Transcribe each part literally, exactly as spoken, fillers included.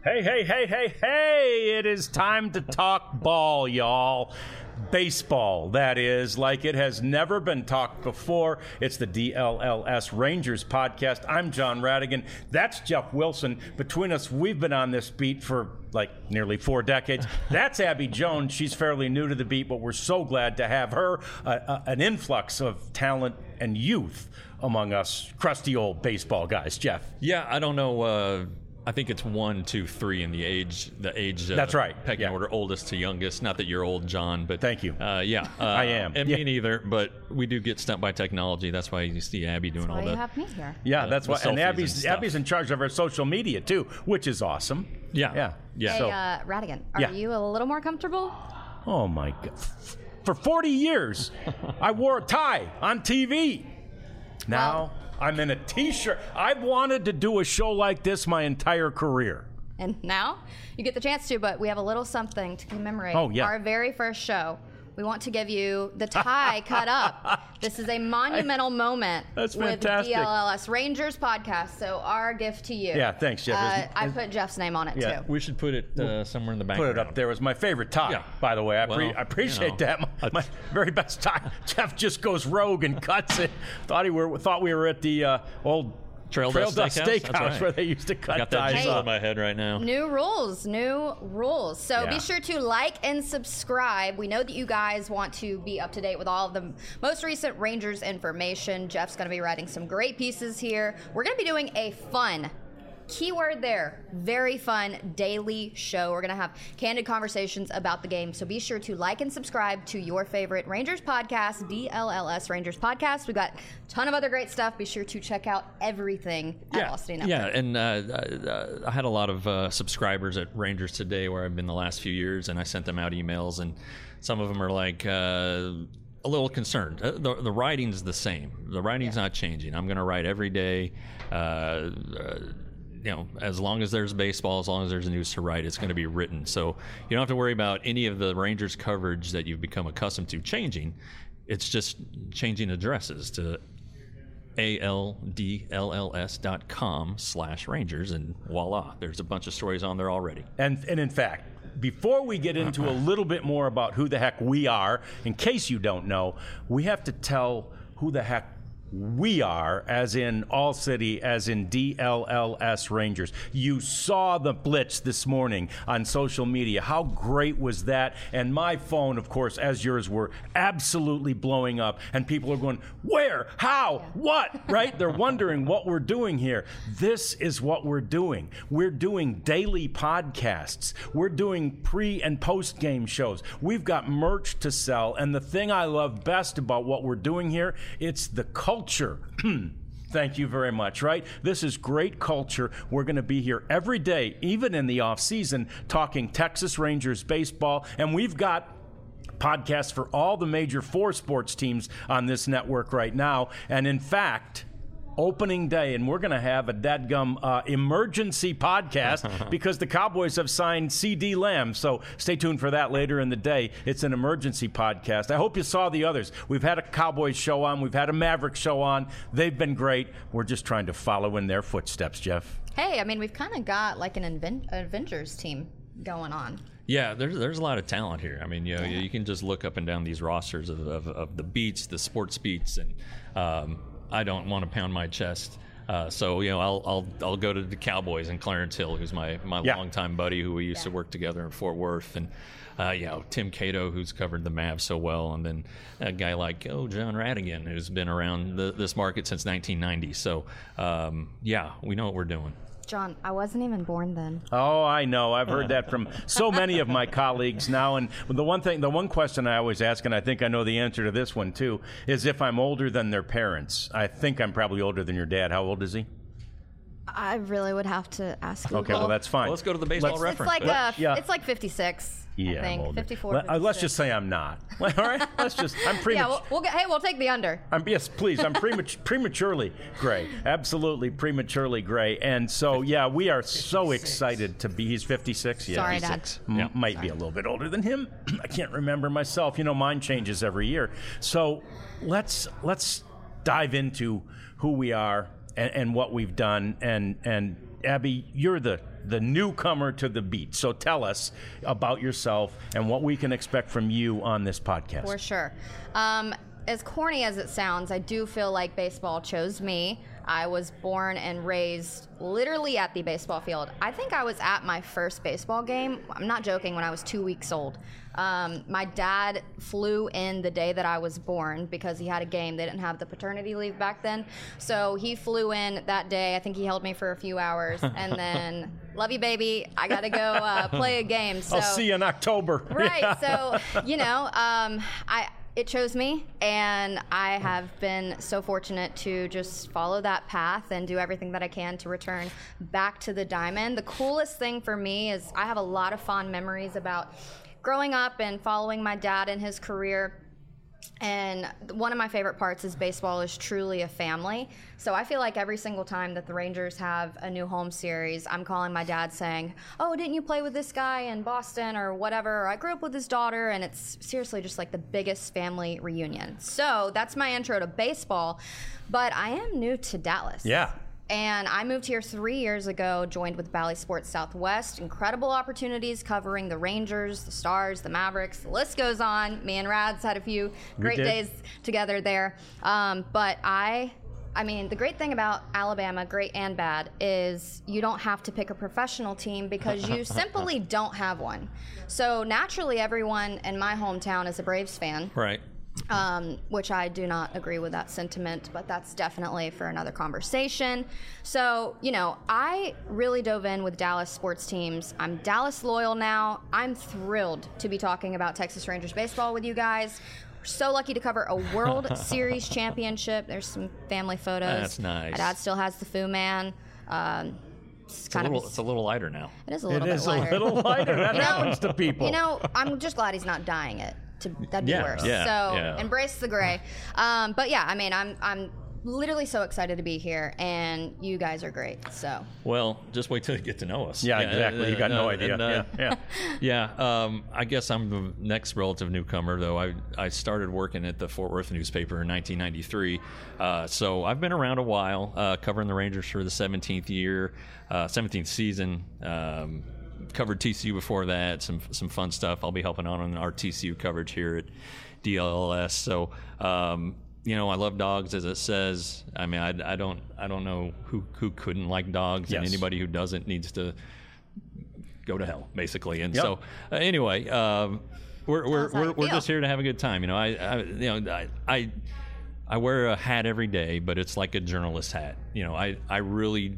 Hey, hey, hey, hey, hey, it is time to talk ball, y'all. Baseball, that is, like it has never been talked before. It's the D L L S Rangers podcast. I'm John Radigan. That's Jeff Wilson. Between us, we've been on this beat for like nearly four decades. That's Abby Jones. She's fairly new to the beat, but we're so glad to have her. Uh, uh, an influx of talent and youth among us crusty old baseball guys. Jeff. Yeah, I don't know. Uh, I think it's one, two, three in the age, the age. Uh, That's right. Pecking yeah. order, oldest to youngest. Not that you're old, John, but thank you. Uh, yeah, uh, I am. And yeah. me neither. But we do get stumped by technology. That's why you see Abby doing that's all why the. You have me here. Yeah, uh, that's why. And Abby's and Abby's in charge of our social media too, which is awesome. Yeah, yeah, yeah. Hey, so, uh, Radigan, are yeah. you a little more comfortable? Oh my God! For forty years, I wore a tie on T V. Now Well, I'm in a T-shirt. I've wanted to do a show like this my entire career. And now you get the chance to, but we have a little something to commemorate Oh, yeah. our very first show. We want to give you the tie cut up. This is a monumental moment That's with fantastic. D L L S Rangers podcast. So our gift to you. Yeah, thanks, Jeff. Uh, Is- I is- put Jeff's name on it Yeah. too. We should put it uh, somewhere in the Put background. it up there. It was my favorite tie, Yeah. by the way. I, pre- Well, I appreciate you know, that. My, my very best tie. Jeff just goes rogue and cuts it. Thought he were thought we were at the uh, old Trail, Trail Dust Dust Steakhouse, Steakhouse, That's right. where they used to cut Got that ties jingle up. in my head right now. New rules, new rules. So Yeah. be sure to like and subscribe. We know that you guys want to be up to date with all of the most recent Rangers information. Jeff's going to be writing some great pieces here. We're going to be doing a fun, keyword there, very fun daily show. We're going to have candid conversations about the game. So be sure to like and subscribe to your favorite Rangers podcast, D L L S Rangers podcast. We've got a ton of other great stuff. Be sure to check out everything at yeah, Velocity Network. Yeah, and uh, uh, I had a lot of uh, subscribers at Rangers Today where I've been the last few years, and I sent them out emails, and some of them are like uh, a little concerned. Uh, the, the writing's the same. The writing's Yeah. not changing. I'm going to write every day. Uh, uh, you know, as long as there's baseball, as long as there's news to write, it's going to be written. So you don't have to worry about any of the Rangers coverage that you've become accustomed to changing. It's just changing addresses to A L D L L S dot com slash Rangers, and voila, there's a bunch of stories on there already. And, and in fact, before we get into a little bit more about who the heck we are, in case you don't know, we have to tell who the heck we are, as in All City, as in D L L S Rangers. You saw the blitz this morning on social media. How great was that? And my phone, of course, as yours were, absolutely blowing up. And people are going, where? How? What? Right? They're wondering what we're doing here. This is what we're doing. We're doing daily podcasts. We're doing pre and post game shows. We've got merch to sell. And the thing I love best about what we're doing here, it's the culture. Culture. Thank you very much, right? This is great culture. We're going to be here every day, even in the off season, talking Texas Rangers baseball. And we've got podcasts for all the major four sports teams on this network right now. And in fact, opening day, and we're going to have a dadgum uh, emergency podcast because the Cowboys have signed C D Lamb. So stay tuned for that later in the day. It's an emergency podcast. I hope you saw the others. We've had a Cowboys show on. We've had a Mavericks show on. They've been great. We're just trying to follow in their footsteps, Jeff. Hey, I mean, we've kind of got like an Aven- Avengers team going on. Yeah, there's there's a lot of talent here. I mean, you know, you can just look up and down these rosters of, of, of the beats, the sports beats, and um, I don't want to pound my chest. Uh, so, you know, I'll I'll I'll go to the Cowboys and Clarence Hill, who's my, my Yeah. longtime buddy who we used Yeah. to work together in Fort Worth. And, uh, you know, Tim Cato, who's covered the Mavs so well. And then a guy like, oh, John Radigan, who's been around the, this market since nineteen ninety. So, um, yeah, we know what we're doing. John, I wasn't even born then. Oh, I know. I've heard that from so many of my colleagues now. And the one thing, the one question I always ask, and I think I know the answer to this one too, is if I'm older than their parents. I think I'm probably older than your dad. How old is he? I really would have to ask Google. Okay, well, that's fine. Well, let's go to the baseball Let's- It's reference. like book. uh, Yeah. it's like fifty-six. Yeah, I I'm think older. fifty-four. Let, uh, let's fifty-six. just say I'm not. All right, let's just. I'm Yeah, premature. we'll, we'll get. Hey, we'll take the under. I'm, yes, please. I'm premature, prematurely gray. Absolutely prematurely gray. And so, yeah, we are so excited to be. He's fifty-six. Yeah, Sorry, he's Dad. six. M- Might be a little bit older than him. I can't remember myself. You know, mine changes every year. So let's let's dive into who we are and, and what we've done. And and Abby, you're the the newcomer to the beat. So tell us about yourself and what we can expect from you on this podcast. For sure. Um, as corny as it sounds, I do feel like baseball chose me. I was born and raised literally at the baseball field. I think I was at my first baseball game. I'm not joking, when I was two weeks old. Um, my dad flew in the day that I was born because he had a game. They didn't have the paternity leave back then. So he flew in that day. I think he held me for a few hours. And then, love you, baby. I got to go uh, play a game. So, I'll see you in October. Right. So, you know, um, I... It chose me, and I have been so fortunate to just follow that path and do everything that I can to return back to the diamond. The coolest thing for me is I have a lot of fond memories about growing up and following my dad in his career. And one of my favorite parts is baseball is truly a family. So I feel like every single time that the Rangers have a new home series, I'm calling my dad saying, oh, didn't you play with this guy in Boston or whatever? Or I grew up with his daughter, and it's seriously just like the biggest family reunion. So that's my intro to baseball. But I am new to Dallas. Yeah. And I moved here three years ago, joined with Bally Sports Southwest. Incredible opportunities covering the Rangers, the Stars, the Mavericks. The list goes on. Me and Rads had a few great days together there. Um, but I, I mean, the great thing about Alabama, great and bad, is you don't have to pick a professional team because you simply don't have one. So naturally, everyone in my hometown is a Braves fan. Right. Um, which I do not agree with that sentiment, but that's definitely for another conversation. So, you know, I really dove in with Dallas sports teams. I'm Dallas loyal now. I'm thrilled to be talking about Texas Rangers baseball with you guys. We're so lucky to cover a World Series championship. There's some family photos. That's nice. My dad still has the Fu Man. Um, it's, It's, kind a little, of, it's a little lighter now. it is a It little bit is a lighter. little lighter. That You know- happens to people. You know, I'm just glad he's not dyeing it. To, that'd be Yeah, worse. yeah, so yeah. embrace the gray. Um, but yeah, I mean, I'm I'm literally so excited to be here, and you guys are great. So Well, just wait till you get to know us. yeah, exactly. You got no uh, idea. and, uh, yeah, yeah. Yeah, um, I guess I'm the next relative newcomer, though. I I started working at the Fort Worth newspaper in nineteen ninety-three, uh, so I've been around a while, uh, covering the Rangers for the seventeenth year, uh, seventeenth season. Um, covered T C U before that, some some fun stuff. I'll be helping out on our T C U coverage here at D L L S. So, um, you know, I love dogs, as it says. I mean, I, I don't I don't know who who couldn't like dogs, and Yes. anybody who doesn't needs to go to hell, basically. And Yep. so, uh, anyway, um, we're we're Sounds how we're, you we're feel. just here to have a good time. You know, I, I you know I, I I wear a hat every day, but it's like a journalist hat. You know, I I really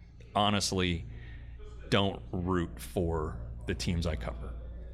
honestly don't root for the teams I cover.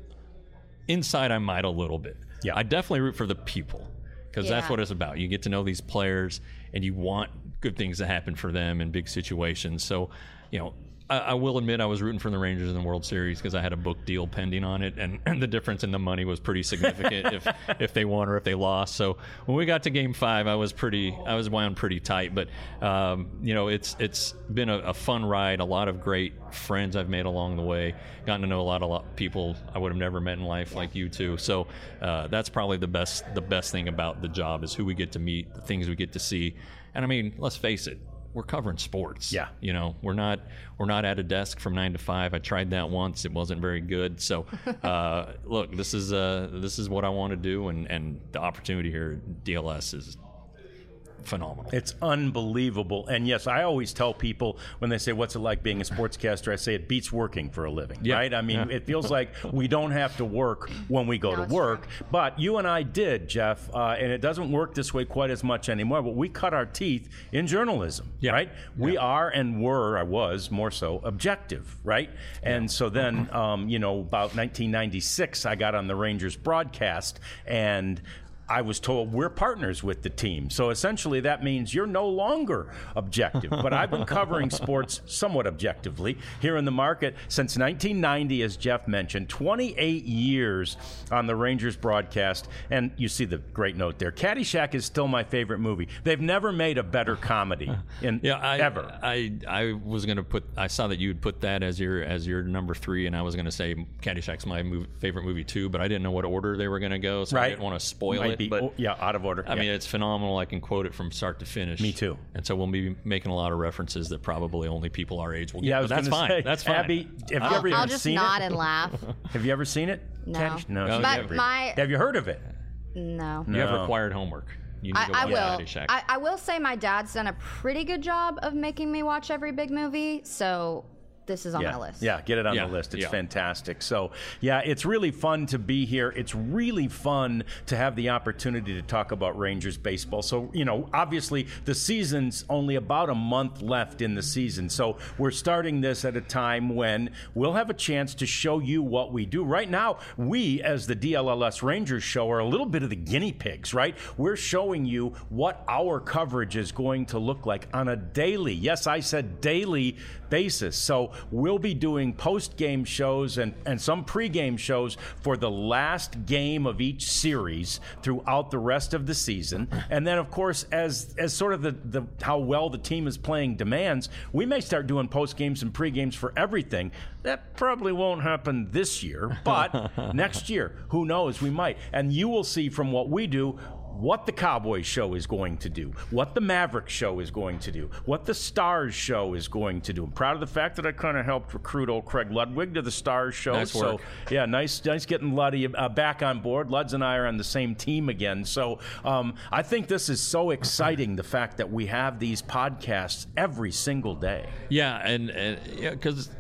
Inside, I might a little bit. Yeah. I definitely root for the people, because that's Yeah. what it's about. You get to know these players, and you want good things to happen for them in big situations. So, you know, I, I will admit I was rooting for the Rangers in the World Series because I had a book deal pending on it, and, and the difference in the money was pretty significant if if they won or if they lost. So when we got to Game Five, I was pretty I was wound pretty tight. But um, you know, it's it's been a, a fun ride. A lot of great friends I've made along the way. Gotten to know a lot of lot, people I would have never met in life, like you two. So uh, that's probably the best the best thing about the job is who we get to meet, the things we get to see. And I mean, let's face it, we're covering sports. Yeah. You know, we're not we're not at a desk from nine to five. I tried that once; it wasn't very good. So, uh, look, this is uh, this is what I want to do, and, and the opportunity here at D L S is phenomenal. It's unbelievable. And yes, I always tell people when they say, what's it like being a sportscaster? I say it beats working for a living, Yeah. right? I mean, Yeah. it feels like we don't have to work when we go No, to it's work. But you and I did, Jeff, uh, and it doesn't work this way quite as much anymore, but we cut our teeth in journalism, Yeah. right? We are and were, I was more so, objective, right? And so then, um, you know, about nineteen ninety-six, I got on the Rangers broadcast, and I was told we're partners with the team. So essentially that means you're no longer objective. But I've been covering sports somewhat objectively here in the market since nineteen ninety, as Jeff mentioned, twenty-eight years on the Rangers broadcast. And you see the great note there. Caddyshack is still my favorite movie. They've never made a better comedy in Yeah, I, ever. I I was gonna put. I saw that you would put that as your as your number three, and I was gonna say Caddyshack's my mov favorite movie too, but I didn't know what order they were gonna go, so Right. I didn't want to spoil Might it. be but oh, yeah, out of order. I yeah. mean, it's phenomenal. I can quote it from start to finish. Me too. And so we'll be making a lot of references that probably only people our age will get. Yeah, I but was that's gonna fine. say, That's fine. Abby, have you I'll, ever I'll even just seen nod it? and laugh. Have you ever seen it? No. Caddyshack? No. No, she's But never. my- Have you heard of it? No. You have No. required homework. You need I, to I watch will. Caddyshack. I, I will say my dad's done a pretty good job of making me watch every big movie, so this is on yeah. my list. Yeah, get it on Yeah, the list. It's yeah. fantastic. So, yeah, it's really fun to be here. It's really fun to have the opportunity to talk about Rangers baseball. So, you know, obviously the season's only about a month left in the season. So we're starting this at a time when we'll have a chance to show you what we do. Right now, we, as the D L L S Rangers show, are a little bit of the guinea pigs, right? We're showing you what our coverage is going to look like on a daily, yes, I said daily basis. So we'll be doing post-game shows and, and some pre-game shows for the last game of each series throughout the rest of the season. And then, of course, as as sort of the, the how well the team is playing demands, we may start doing post-games and pre-games for everything. That probably won't happen this year, but next year, who knows, we might. And you will see from what we do what the Cowboys show is going to do, what the Mavericks show is going to do, what the Stars show is going to do. I'm proud of the fact that I kind of helped recruit old Craig Ludwig to the Stars show. Nice work. So, yeah, nice nice getting Luddy uh, back on board. Luds and I are on the same team again. So um, I think this is so exciting, the fact that we have these podcasts every single day. Yeah, and, and yeah, because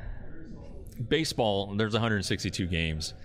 baseball, there's one hundred sixty-two games.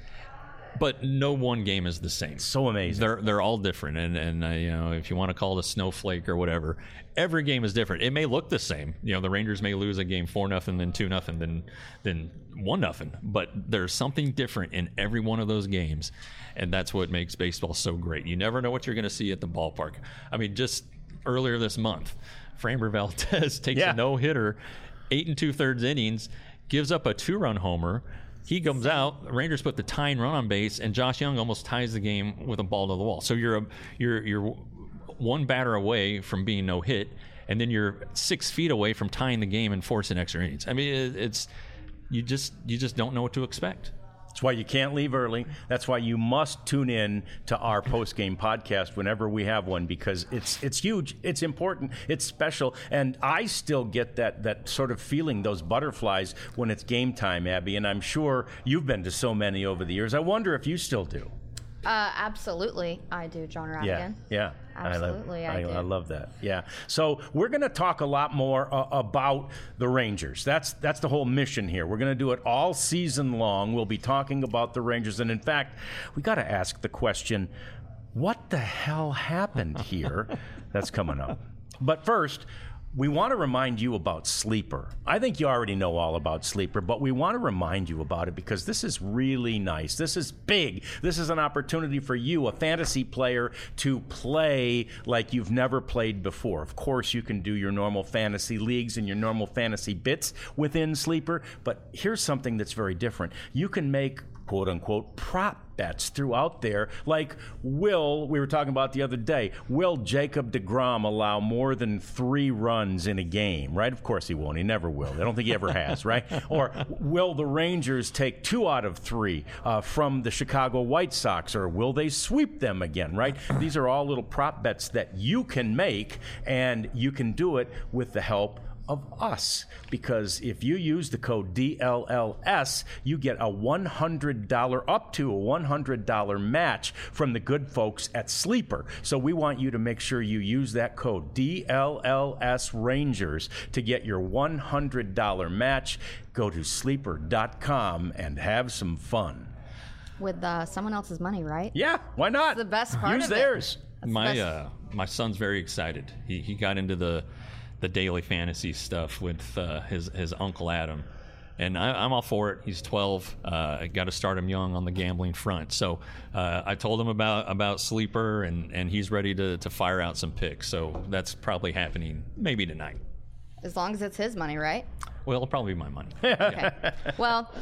But no one game is the same. So amazing. They're they're all different, and and uh, you know, if you want to call it a snowflake or whatever, every game is different. It may look the same. You know, the Rangers may lose a game four nothing, then two nothing, then then one nothing. But there's something different in every one of those games, and that's what makes baseball so great. You never know what you're going to see at the ballpark. I mean, just earlier this month, Framber Valdez takes Yeah. a no hitter, eight and two thirds innings, gives up a two run homer. He comes out. The Rangers put the tying run on base, and Josh Young almost ties the game with a ball to the wall. So you're a, you're you're one batter away from being no hit, and then you're six feet away from tying the game and forcing extra innings. I mean, it, it's you just you just don't know what to expect. That's why you can't leave early. That's why you must tune in to our post-game podcast whenever we have one, because it's it's huge, it's important, it's special, and I still get that that sort of feeling, those butterflies, when it's game time, Abby, and I'm sure you've been to so many over the years. I wonder if you still do. Uh, absolutely, I do, John Radigan. Yeah, yeah. Absolutely, I, I love, do. I, I love that. Yeah. So we're going to talk a lot more uh, about the Rangers. That's that's the whole mission here. We're going to do it all season long. We'll be talking about the Rangers, and in fact, we got to ask the question: what the hell happened here? That's coming up. But first, we want to remind you about Sleeper. I think you already know all about Sleeper, but we want to remind you about it because this is really nice. This is big. This is an opportunity for you, a fantasy player, to play like you've never played before. Of course, you can do your normal fantasy leagues and your normal fantasy bits within Sleeper, but here's something that's very different. You can make quote-unquote prop bets throughout there, like will, we were talking about the other day, will Jacob deGrom allow more than three runs in a game, right? Of course he won't. He never will. I don't think he ever has, right? Or will the Rangers take two out of three uh, from the Chicago White Sox, or will they sweep them again, right? These are all little prop bets that you can make, and you can do it with the help of us, because if you use the code D L L S, you get a one hundred dollars, up to a one hundred dollars match from the good folks at Sleeper. So we want you to make sure you use that code D L L S Rangers to get your one hundred dollars match. Go to sleeper dot com and have some fun. With uh, someone else's money, right? Yeah, why not? That's the best part Use of it. theirs. That's My the uh, my son's very excited. He he got into the the daily fantasy stuff with uh, his his uncle Adam, and I, I'm all for it. He's twelve. Uh, I got to start him young on the gambling front. So uh, I told him about about Sleeper, and, and he's ready to, to fire out some picks. So that's probably happening maybe tonight. As long as it's his money, right? Well, it'll probably be my money. Okay. Well,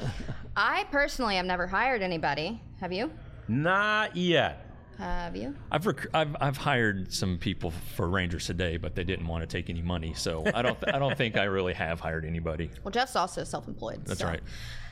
I personally have never hired anybody. Have you? Not yet. Have you? I've, rec- I've I've hired some people for Rangers today, but they didn't want to take any money. So I don't th- I don't think I really have hired anybody. Well, Jeff's also self-employed. That's so. right.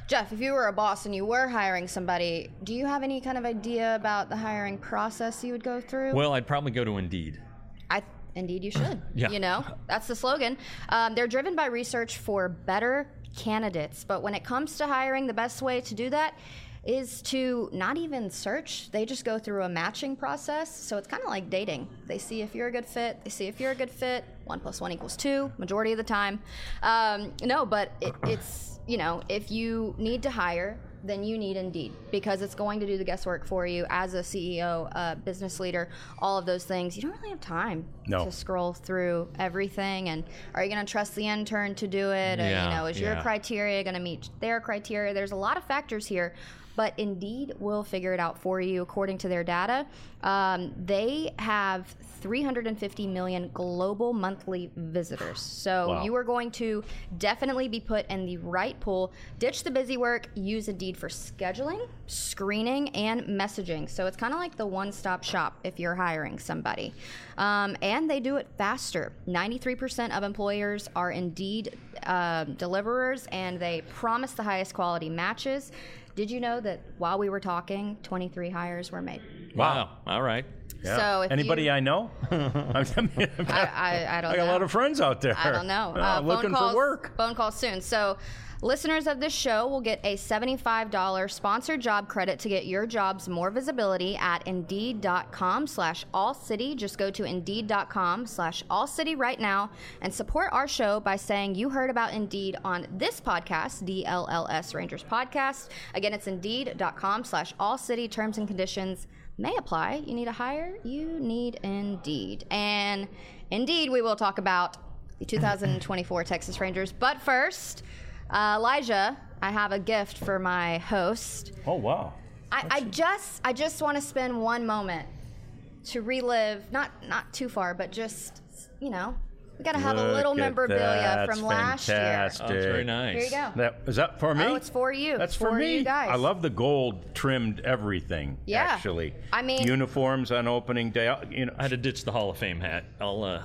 Jeff, if you were a boss and you were hiring somebody, do you have any kind of idea about the hiring process you would go through? Well, I'd probably go to Indeed. I indeed you should. Yeah. You know, that's the slogan. Um, they're driven by research for better candidates, but when it comes to hiring, the best way to do that is to not even search. They just go through a matching process. So it's kind of like dating. They see if you're a good fit. They see if you're a good fit. One plus one equals two, majority of the time. Um, no, but it, it's, you know, if you need to hire, then you need Indeed, because it's going to do the guesswork for you as a C E O, a business leader, all of those things. You don't really have time No. to scroll through everything. And are you going to trust the intern to do it? And, Yeah, you know, is your yeah. criteria going to meet their criteria? There's a lot of factors here, but Indeed will figure it out for you according to their data. Um, they have three hundred fifty million global monthly visitors. So Wow. you are going to definitely be put in the right pool. Ditch the busy work. Use Indeed for scheduling, screening, and messaging. So it's kind of like the one-stop shop if you're hiring somebody. Um, and they do it faster. ninety-three percent of employers are Indeed uh, deliverers, and they promise the highest quality matches. Did you know that while we were talking, twenty-three hires were made? Wow. All right. Yeah. So if Anybody you- I know? I, mean, I, I, I don't I got know. a lot of friends out there. I don't know. Uh, Uh, phone looking calls, for work. Phone calls soon. So listeners of this show will get a seventy-five dollars sponsored job credit to get your jobs more visibility at Indeed.com slash All City. Just go to Indeed.com slash All City right now and support our show by saying you heard about Indeed on this podcast, D L L S Rangers Podcast. Again, it's Indeed.com slash All City. Terms and conditions may apply. You need a hire? You need Indeed. And indeed, we will talk about the two thousand twenty-four Texas Rangers. But first, uh, Elijah, I have a gift for my host. Oh, wow. I, I just I just want to spend one moment to relive, not not too far, but just, you know, we got to have a Look little at memorabilia that. from last Fantastic. Oh, that's very nice. year. Here you go. That, is that for me? Oh, it's for you. That's It's for, for me. you guys. I love the gold trimmed everything. Yeah. Actually, I mean- uniforms on opening day. You know, I had to ditch the Hall of Fame hat. I'll. Uh,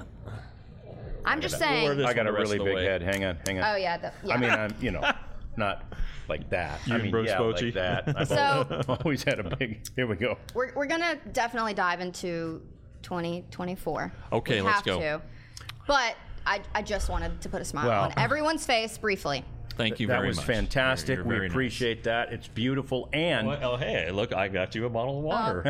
I'm just We'll wear saying. this I got one a the rest really of the big way. head. Hang on, hang on. Oh yeah. The, yeah. I mean, I'm you know, not like that. You I and mean, Bruce yeah, Bochy? like that. I've So- always, always had a big. Here we go. We're, we're going to definitely dive into twenty twenty-four. Okay, we let's have go. To. But I, I just wanted to put a smile Well- on everyone's face briefly. Thank you that very was much. fantastic. You're we very nice. appreciate that. It's beautiful and Oh, oh, hey, look, I got you a bottle of water.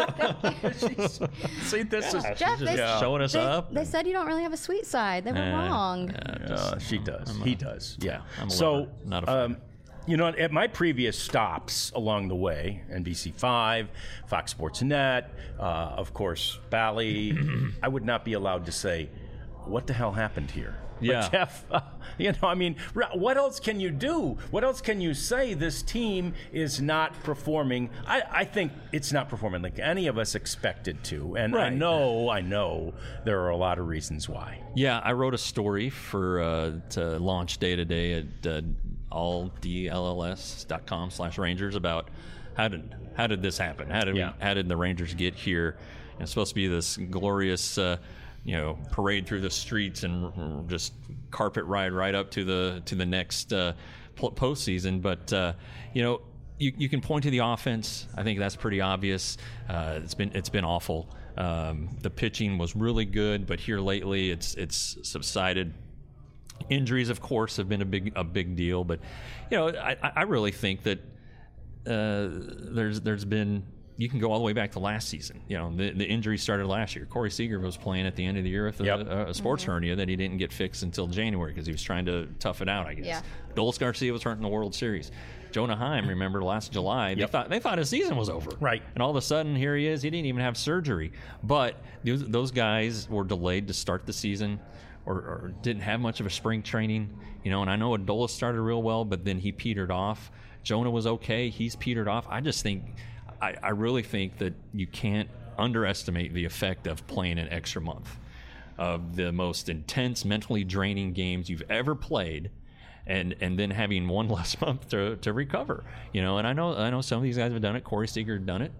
see this is. Yeah, she's Jeff, just they- showing us They, up. they said you don't really have a sweet side. They were Eh, wrong. yeah, just- Uh, she does. he does. Yeah. I'm a so, lover, not a fan. um, you know, at my previous stops along the way, N B C five, Fox Sports Net, uh, of course, Bally, I would not be allowed to say, "What the hell happened here?" But Yeah. Jeff, uh, you know, I mean, r- what else can you do? What else can you say? This team is not performing. I, I think it's not performing like any of us expected to. And I Right. know, I know there are a lot of reasons why. Yeah, I wrote a story for uh, to launch day to day at uh, all D L L S dot com slash Rangers about how did how did this happen? How did Yeah. we, how did the Rangers get here? And it's supposed to be this glorious, uh, you know, parade through the streets and r- just carpet ride right up to the to the next uh, pl- postseason. But uh, you know, you, you can point to the offense. I think that's pretty obvious. Uh, it's been it's been awful. Um, the pitching was really good, but here lately it's it's subsided. Injuries, of course, have been a big a big deal, but you know, I, I really think that uh, there's there's been you can go all the way back to last season. You know, the, the injury started last year. Corey Seager was playing at the end of the year with a, Yep. a, a sports Mm-hmm. hernia that he didn't get fixed until January because he was trying to tough it out, I guess. Yeah. Dulce Garcia was hurt in the World Series. Jonah Heim, remember last July, they Yep. thought they thought his season was over. Right. And all of a sudden, here he is. He didn't even have surgery. But those, those guys were delayed to start the season. Or, or didn't have much of a spring training, you know. And I know Adolis started real well, but then he petered off. Jonah was okay; he's petered off. I just think, I, I really think that you can't underestimate the effect of playing an extra month, of the most intense, mentally draining games you've ever played, and and then having one less month to to recover, you know. And I know I know some of these guys have done it. Corey Seager had done it.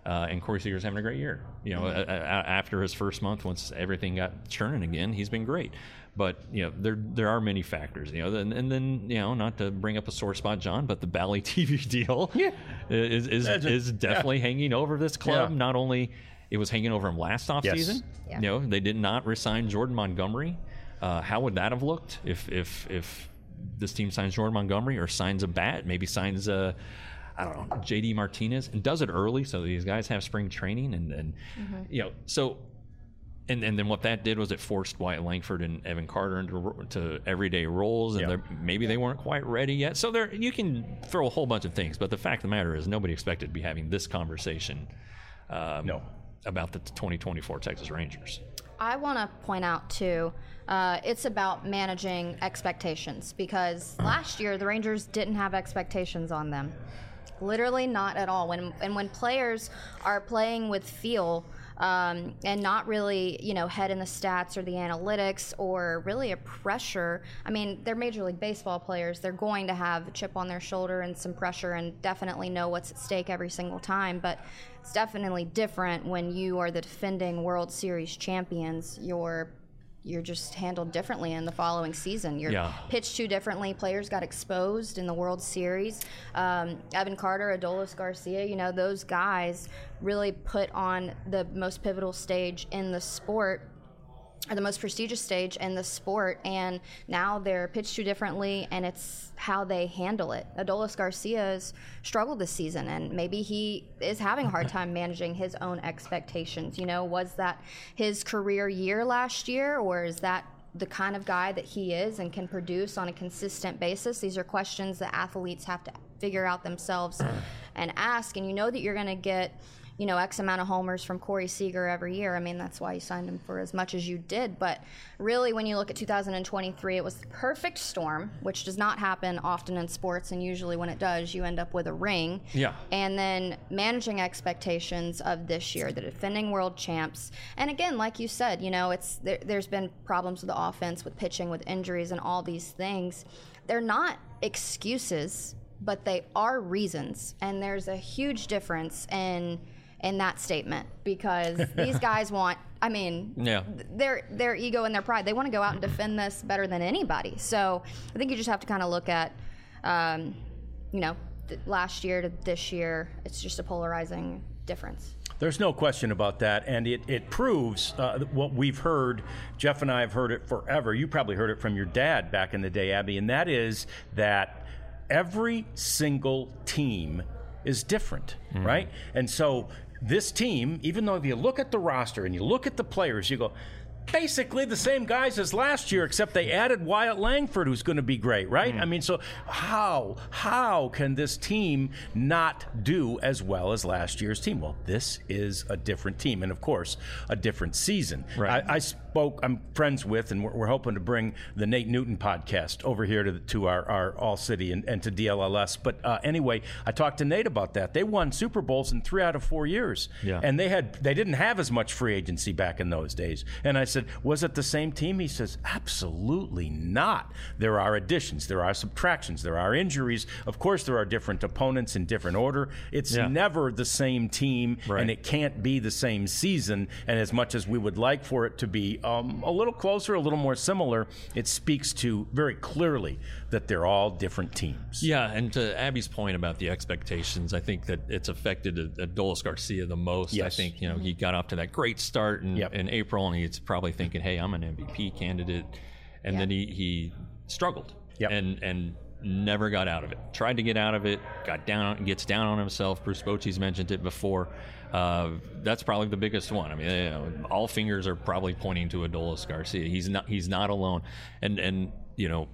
Uh, and Corey Seager's having a great year. You know, mm-hmm. a, a, after his first month, once everything got churning again, he's been great. But you know, there there are many factors. You know, and, and then you know, not to bring up a sore spot, John, but the Bally T V deal yeah. is is, is definitely yeah. hanging over this club. Yeah. Not only it was hanging over him last offseason. Yes. Yeah. You know, they did not resign Jordan Montgomery. Uh, how would that have looked if if if this team signs Jordan Montgomery or signs a bat, maybe signs a I don't know, J D Martinez, and does it early so these guys have spring training and, and mm-hmm. you know, so, and, and then what that did was it forced Wyatt Langford and Evan Carter into to everyday roles, and yeah. maybe they weren't quite ready yet. So there, you can throw a whole bunch of things, but the fact of the matter is nobody expected to be having this conversation um, no. about the twenty twenty-four Texas Rangers. I want to point out, too, uh, it's about managing expectations, because last year the Rangers didn't have expectations on them. Literally not at all. When and when players are playing with feel um, and not really, you know, head in the stats or the analytics or really a pressure. I mean, they're Major League Baseball players. They're going to have a chip on their shoulder and some pressure and definitely know what's at stake every single time. But it's definitely different when you are the defending World Series champions. You're You're just handled differently in the following season. You're yeah. pitched too differently. Players got exposed in the World Series. Um, Evan Carter, Adolis Garcia, you know, those guys really put on the most pivotal stage in the sport, or the most prestigious stage in the sport, and now they're pitched too differently, and it's how they handle it. Adolis Garcia's struggled this season, and maybe he is having a hard time managing his own expectations. You know, was that his career year last year, or is that the kind of guy that he is and can produce on a consistent basis? These are questions that athletes have to figure out themselves and ask, and you know that you're going to get, you know, X amount of homers from Corey Seager every year. I mean, that's why you signed him for as much as you did. But really, when you look at two thousand twenty-three, it was the perfect storm, which does not happen often in sports. And usually when it does, you end up with a ring. Yeah. And then managing expectations of this year, the defending world champs. And again, like you said, you know, it's there, there's been problems with the offense, with pitching, with injuries, and all these things. They're not excuses, but they are reasons. And there's a huge difference in in that statement, because these guys want, I mean, yeah. their their ego and their pride, they want to go out and defend this better than anybody. So I think you just have to kind of look at, um, you know, th- last year to this year. It's just a polarizing difference. There's no question about that, and it, it proves uh, what we've heard. Jeff and I have heard it forever. You probably heard it from your dad back in the day, Abby, and that is that every single team is different, mm-hmm. right? And so this team, even though if you look at the roster and you look at the players, you go, basically the same guys as last year, except they added Wyatt Langford, who's going to be great, right? Mm-hmm. I mean, so how how can this team not do as well as last year's team? Well, this is a different team, and of course, a different season. Right. I, I spoke, I'm friends with, and we're, we're hoping to bring the Nate Newton podcast over here to the, to our, our All City and, and to D L L S. But uh, anyway, I talked to Nate about that. They won Super Bowls in three out of four years, yeah. and they had they didn't have as much free agency back in those days. And I said, was it the same team? He says, absolutely not. There are additions, there are subtractions, there are injuries. Of course, there are different opponents in different order. It's yeah. never the same team, right. and it can't be the same season. And as much as we would like for it to be um, a little closer, a little more similar, it speaks to very clearly that they're all different teams. Yeah, and to Abby's point about the expectations, I think that it's affected Adolis Garcia the most. Yes. I think, you know, he got off to that great start in, yep. in April, and he's probably thinking, hey, I'm an M V P candidate. And yeah. then he, he struggled yep. and and never got out of it. Tried to get out of it, got down on, gets down on himself. Bruce Bochy's mentioned it before. Uh, that's probably the biggest one. I mean, you know, all fingers are probably pointing to Adolis Garcia. He's not he's not alone. And and you know,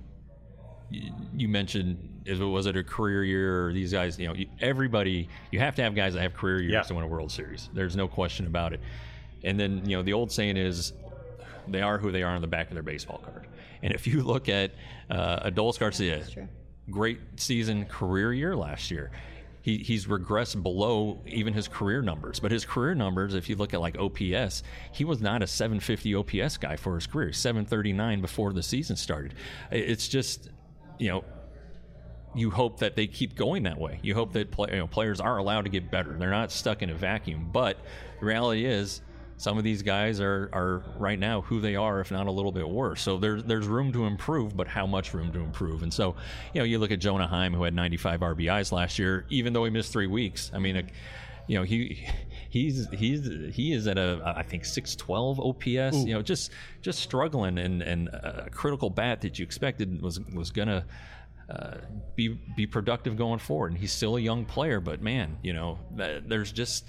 you mentioned, was it a career year or these guys, you know, everybody, you have to have guys that have career years yeah. to win a World Series. There's no question about it. And then, you know, the old saying is, they are who they are on the back of their baseball card. And if you look at uh, Adolis Garcia, great season, career year last year. He, he's regressed below even his career numbers. But his career numbers, if you look at like O P S, he was not a seven fifty O P S guy for his career. seven thirty-nine before the season started. It's just, you know, you hope that they keep going that way. You hope that play, you know, players are allowed to get better. They're not stuck in a vacuum. But the reality is, some of these guys are, are right now who they are, if not a little bit worse. So there's there's room to improve, but how much room to improve? And so, you know, you look at Jonah Heim, who had ninety-five R B Is last year, even though he missed three weeks. I mean, a, you know, he he's he's he is at a I think six twelve O P S. Ooh. You know, just just struggling, and and a critical bat that you expected was was gonna. Uh, be be productive going forward, and he's still a young player. But man, you know, th- there's just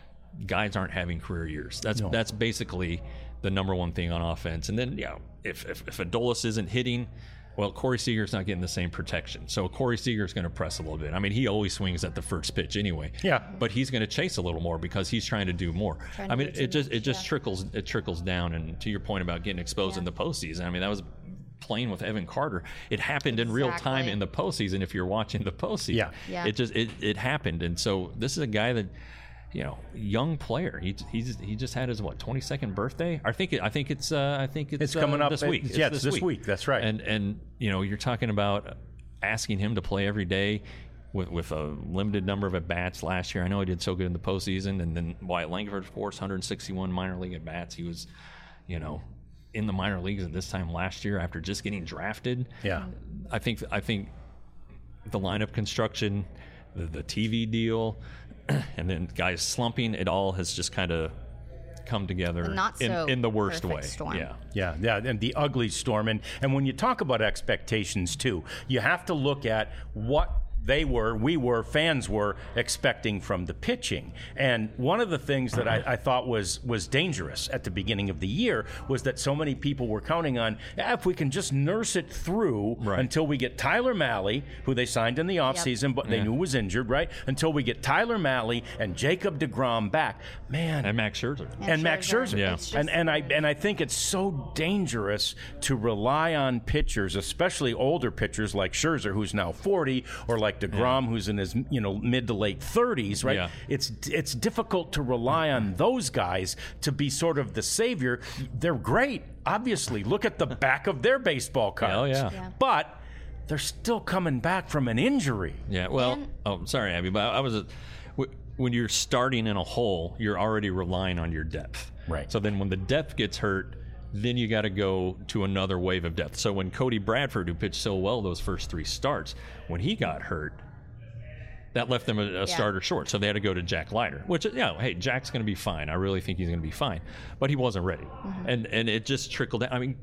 guys aren't having career years. That's no. that's basically the number one thing on offense. And then, you know, if if, if Adolis isn't hitting, well, Corey Seager's not getting the same protection. So Corey Seager's going to press a little bit. I mean, he always swings at the first pitch anyway. Yeah. But he's going to chase a little more because he's trying to do more. I mean, it just much, it just yeah. trickles it trickles down. And to your point about getting exposed yeah. in the postseason, I mean, that was playing with Evan Carter. It happened exactly. in real time in the postseason. If you're watching the postseason, yeah. yeah. it just it, it happened. And so this is a guy that, you know, young player. He he's he just had his what twenty-second birthday. I think it, I think it's uh, I think it's, it's coming uh, up this week. It's, yeah, it's this, this week. week. That's right. And and you know, you're talking about asking him to play every day with with a limited number of at bats last year. I know he did so good in the postseason, and then Wyatt Langford, of course, one hundred sixty-one minor league at bats. He was, you know, in the minor leagues at this time last year after just getting drafted. Yeah. I think I think the lineup construction, the, the T V deal, and then guys slumping, it all has just kind of come together not in, so in the worst way. Storm. Yeah. Yeah, yeah, and the ugly storm. And, and when you talk about expectations, too, you have to look at what they were, we were, fans were expecting from the pitching. And one of the things that I, I thought was was dangerous at the beginning of the year was that so many people were counting on, eh, if we can just nurse it through right. until we get Tyler Mahle, who they signed in the offseason, yep. but they yeah. knew was injured, right? Until we get Tyler Mahle and Jacob deGrom back. Man. And Max Scherzer. And, and Max Scherzer. Yeah. Just, and, and, I, and I think it's so dangerous to rely on pitchers, especially older pitchers like Scherzer, who's now forty, or like DeGrom, yeah. who's in his you know mid to late thirties, right? Yeah. It's it's difficult to rely on those guys to be sort of the savior. They're great, obviously. Look at the back of their baseball cards. Oh yeah. yeah. But they're still coming back from an injury. Yeah. Well, and, oh, sorry, Abby, but I was a, when you're starting in a hole, you're already relying on your depth. Right. So then when the depth gets hurt, then you got to go to another wave of depth. So when Cody Bradford, who pitched so well those first three starts, when he got hurt, that left them a, a yeah. starter short. So they had to go to Jack Leiter, which, you know, hey, Jack's going to be fine. I really think he's going to be fine. But he wasn't ready. Mm-hmm. And and it just trickled down. I mean,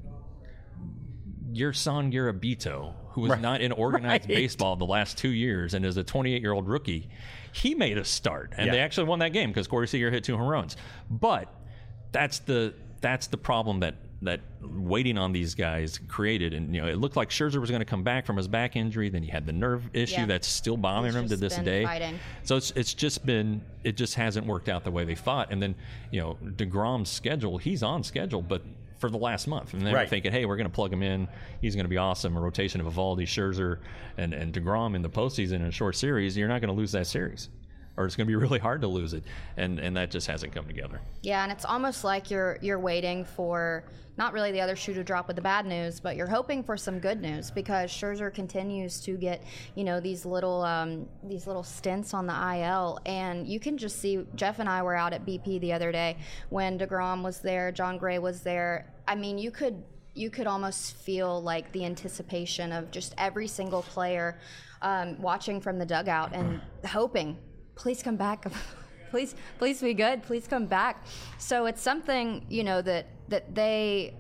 Gerson Garabito, who was right. not in organized right. baseball the last two years and is a twenty-eight-year-old rookie, he made a start. And yeah. they actually won that game because Corey Seager hit two home runs. But that's the that's the problem that that waiting on these guys created. And, you know, it looked like Scherzer was going to come back from his back injury. Then he had the nerve issue yeah. that's still bothering He's him to this day. Fighting. So it's it's just been, it just hasn't worked out the way they thought. And then, you know, DeGrom's schedule, he's on schedule, but for the last month. And they right. were thinking, hey, we're going to plug him in. He's going to be awesome. A rotation of Evaldi, Scherzer, and, and DeGrom in the postseason in a short series. You're not going to lose that series. Or it's going to be really hard to lose it, and and that just hasn't come together. Yeah, and it's almost like you're you're waiting for not really the other shoe to drop with the bad news, but you're hoping for some good news because Scherzer continues to get you know these little um, these little stints on the I L, and you can just see. Jeff and I were out at B P the other day when DeGrom was there, John Gray was there. I mean, you could you could almost feel like the anticipation of just every single player um, watching from the dugout and hoping. Please come back. please, please be good. Please come back. So it's something, you know, that that they,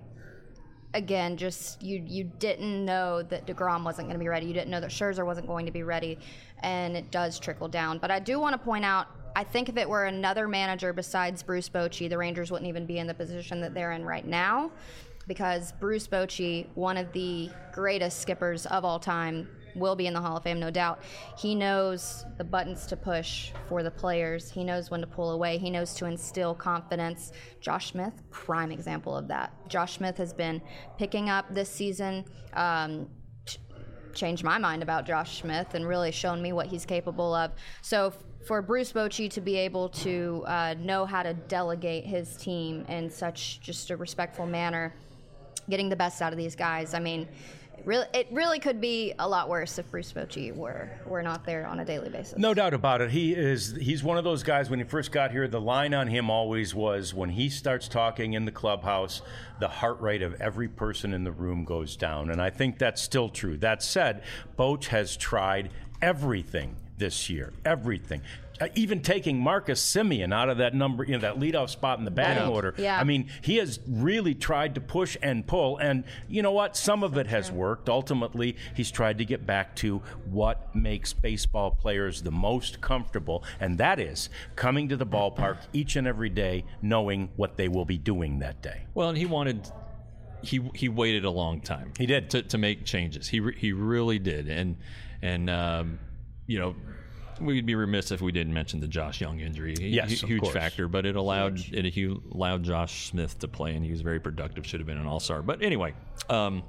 again, just you you didn't know that DeGrom wasn't going to be ready. You didn't know that Scherzer wasn't going to be ready, and it does trickle down. But I do want to point out, I think if it were another manager besides Bruce Bochy, the Rangers wouldn't even be in the position that they're in right now, because Bruce Bochy, one of the greatest skippers of all time, will be in the Hall of Fame, no doubt. He knows the buttons to push for the players. He knows when to pull away. He knows to instill confidence. Josh Smith, prime example of that. Josh Smith has been picking up this season, um, ch- changed my mind about Josh Smith and really shown me what he's capable of. So f- for Bruce Bochy to be able to uh, know how to delegate his team in such just a respectful manner, getting the best out of these guys, I mean, Really, it really could be a lot worse if Bruce Bochy were were not there on a daily basis. No doubt about it. He is. He's one of those guys. When he first got here, the line on him always was, when he starts talking in the clubhouse, the heart rate of every person in the room goes down. And I think that's still true. That said, Boch has tried everything this year. Everything. Uh, even taking Marcus Semien out of that number, you know, that leadoff spot in the batting Right. order. Yeah. I mean, he has really tried to push and pull, and you know what? Some of it has worked. Ultimately, he's tried to get back to what makes baseball players the most comfortable, and that is coming to the ballpark each and every day, knowing what they will be doing that day. Well, and he wanted. He he waited a long time. He did. to, to make changes. He re, he really did, and and um, you know. We'd be remiss if we didn't mention the Josh Young injury. He, Yes, hu- of huge course. factor, but it allowed it he allowed Josh Smith to play, and he was very productive. Should have been an all-star. But anyway, um,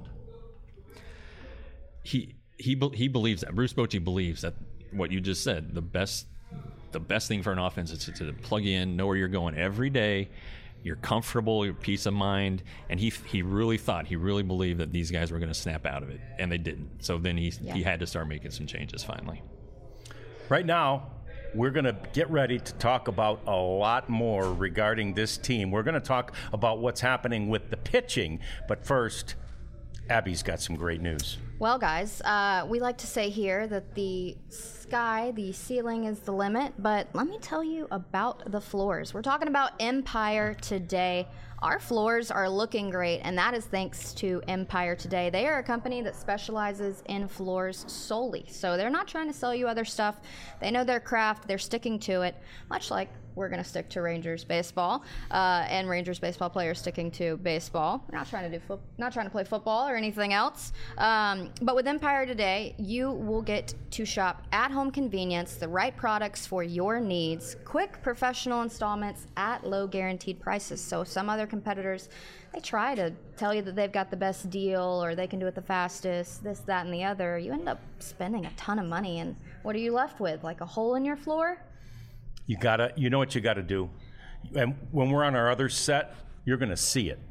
he he be- he believes that Bruce Bochy believes that what you just said. The best the best thing for an offense is to, to plug in, know where you're going every day. You're comfortable, your peace of mind, and he he really thought, he really believed that these guys were going to snap out of it, and they didn't. So then he Yeah. he had to start making some changes finally. Right now, we're going to get ready to talk about a lot more regarding this team. We're going to talk about what's happening with the pitching, but first, Abby's got some great news. Well, guys, uh, we like to say here that the sky, the ceiling is the limit, but let me tell you about the floors. We're talking about Empire Today. Our floors are looking great, and that is thanks to Empire Today. They are a company that specializes in floors solely, so they're not trying to sell you other stuff. They know their craft. They're sticking to it, much like we're going to stick to Rangers baseball, uh, and Rangers baseball players sticking to baseball. We're not trying to do fo- not trying to play football or anything else. Um, but with Empire Today, you will get to shop at home convenience, the right products for your needs, quick professional installments at low guaranteed prices. So some other competitors, they try to tell you that they've got the best deal or they can do it the fastest, this, that, and the other. You end up spending a ton of money, and what are you left with? Like a hole in your floor? You gotta, you know what you gotta do. And when we're on our other set, you're gonna see it.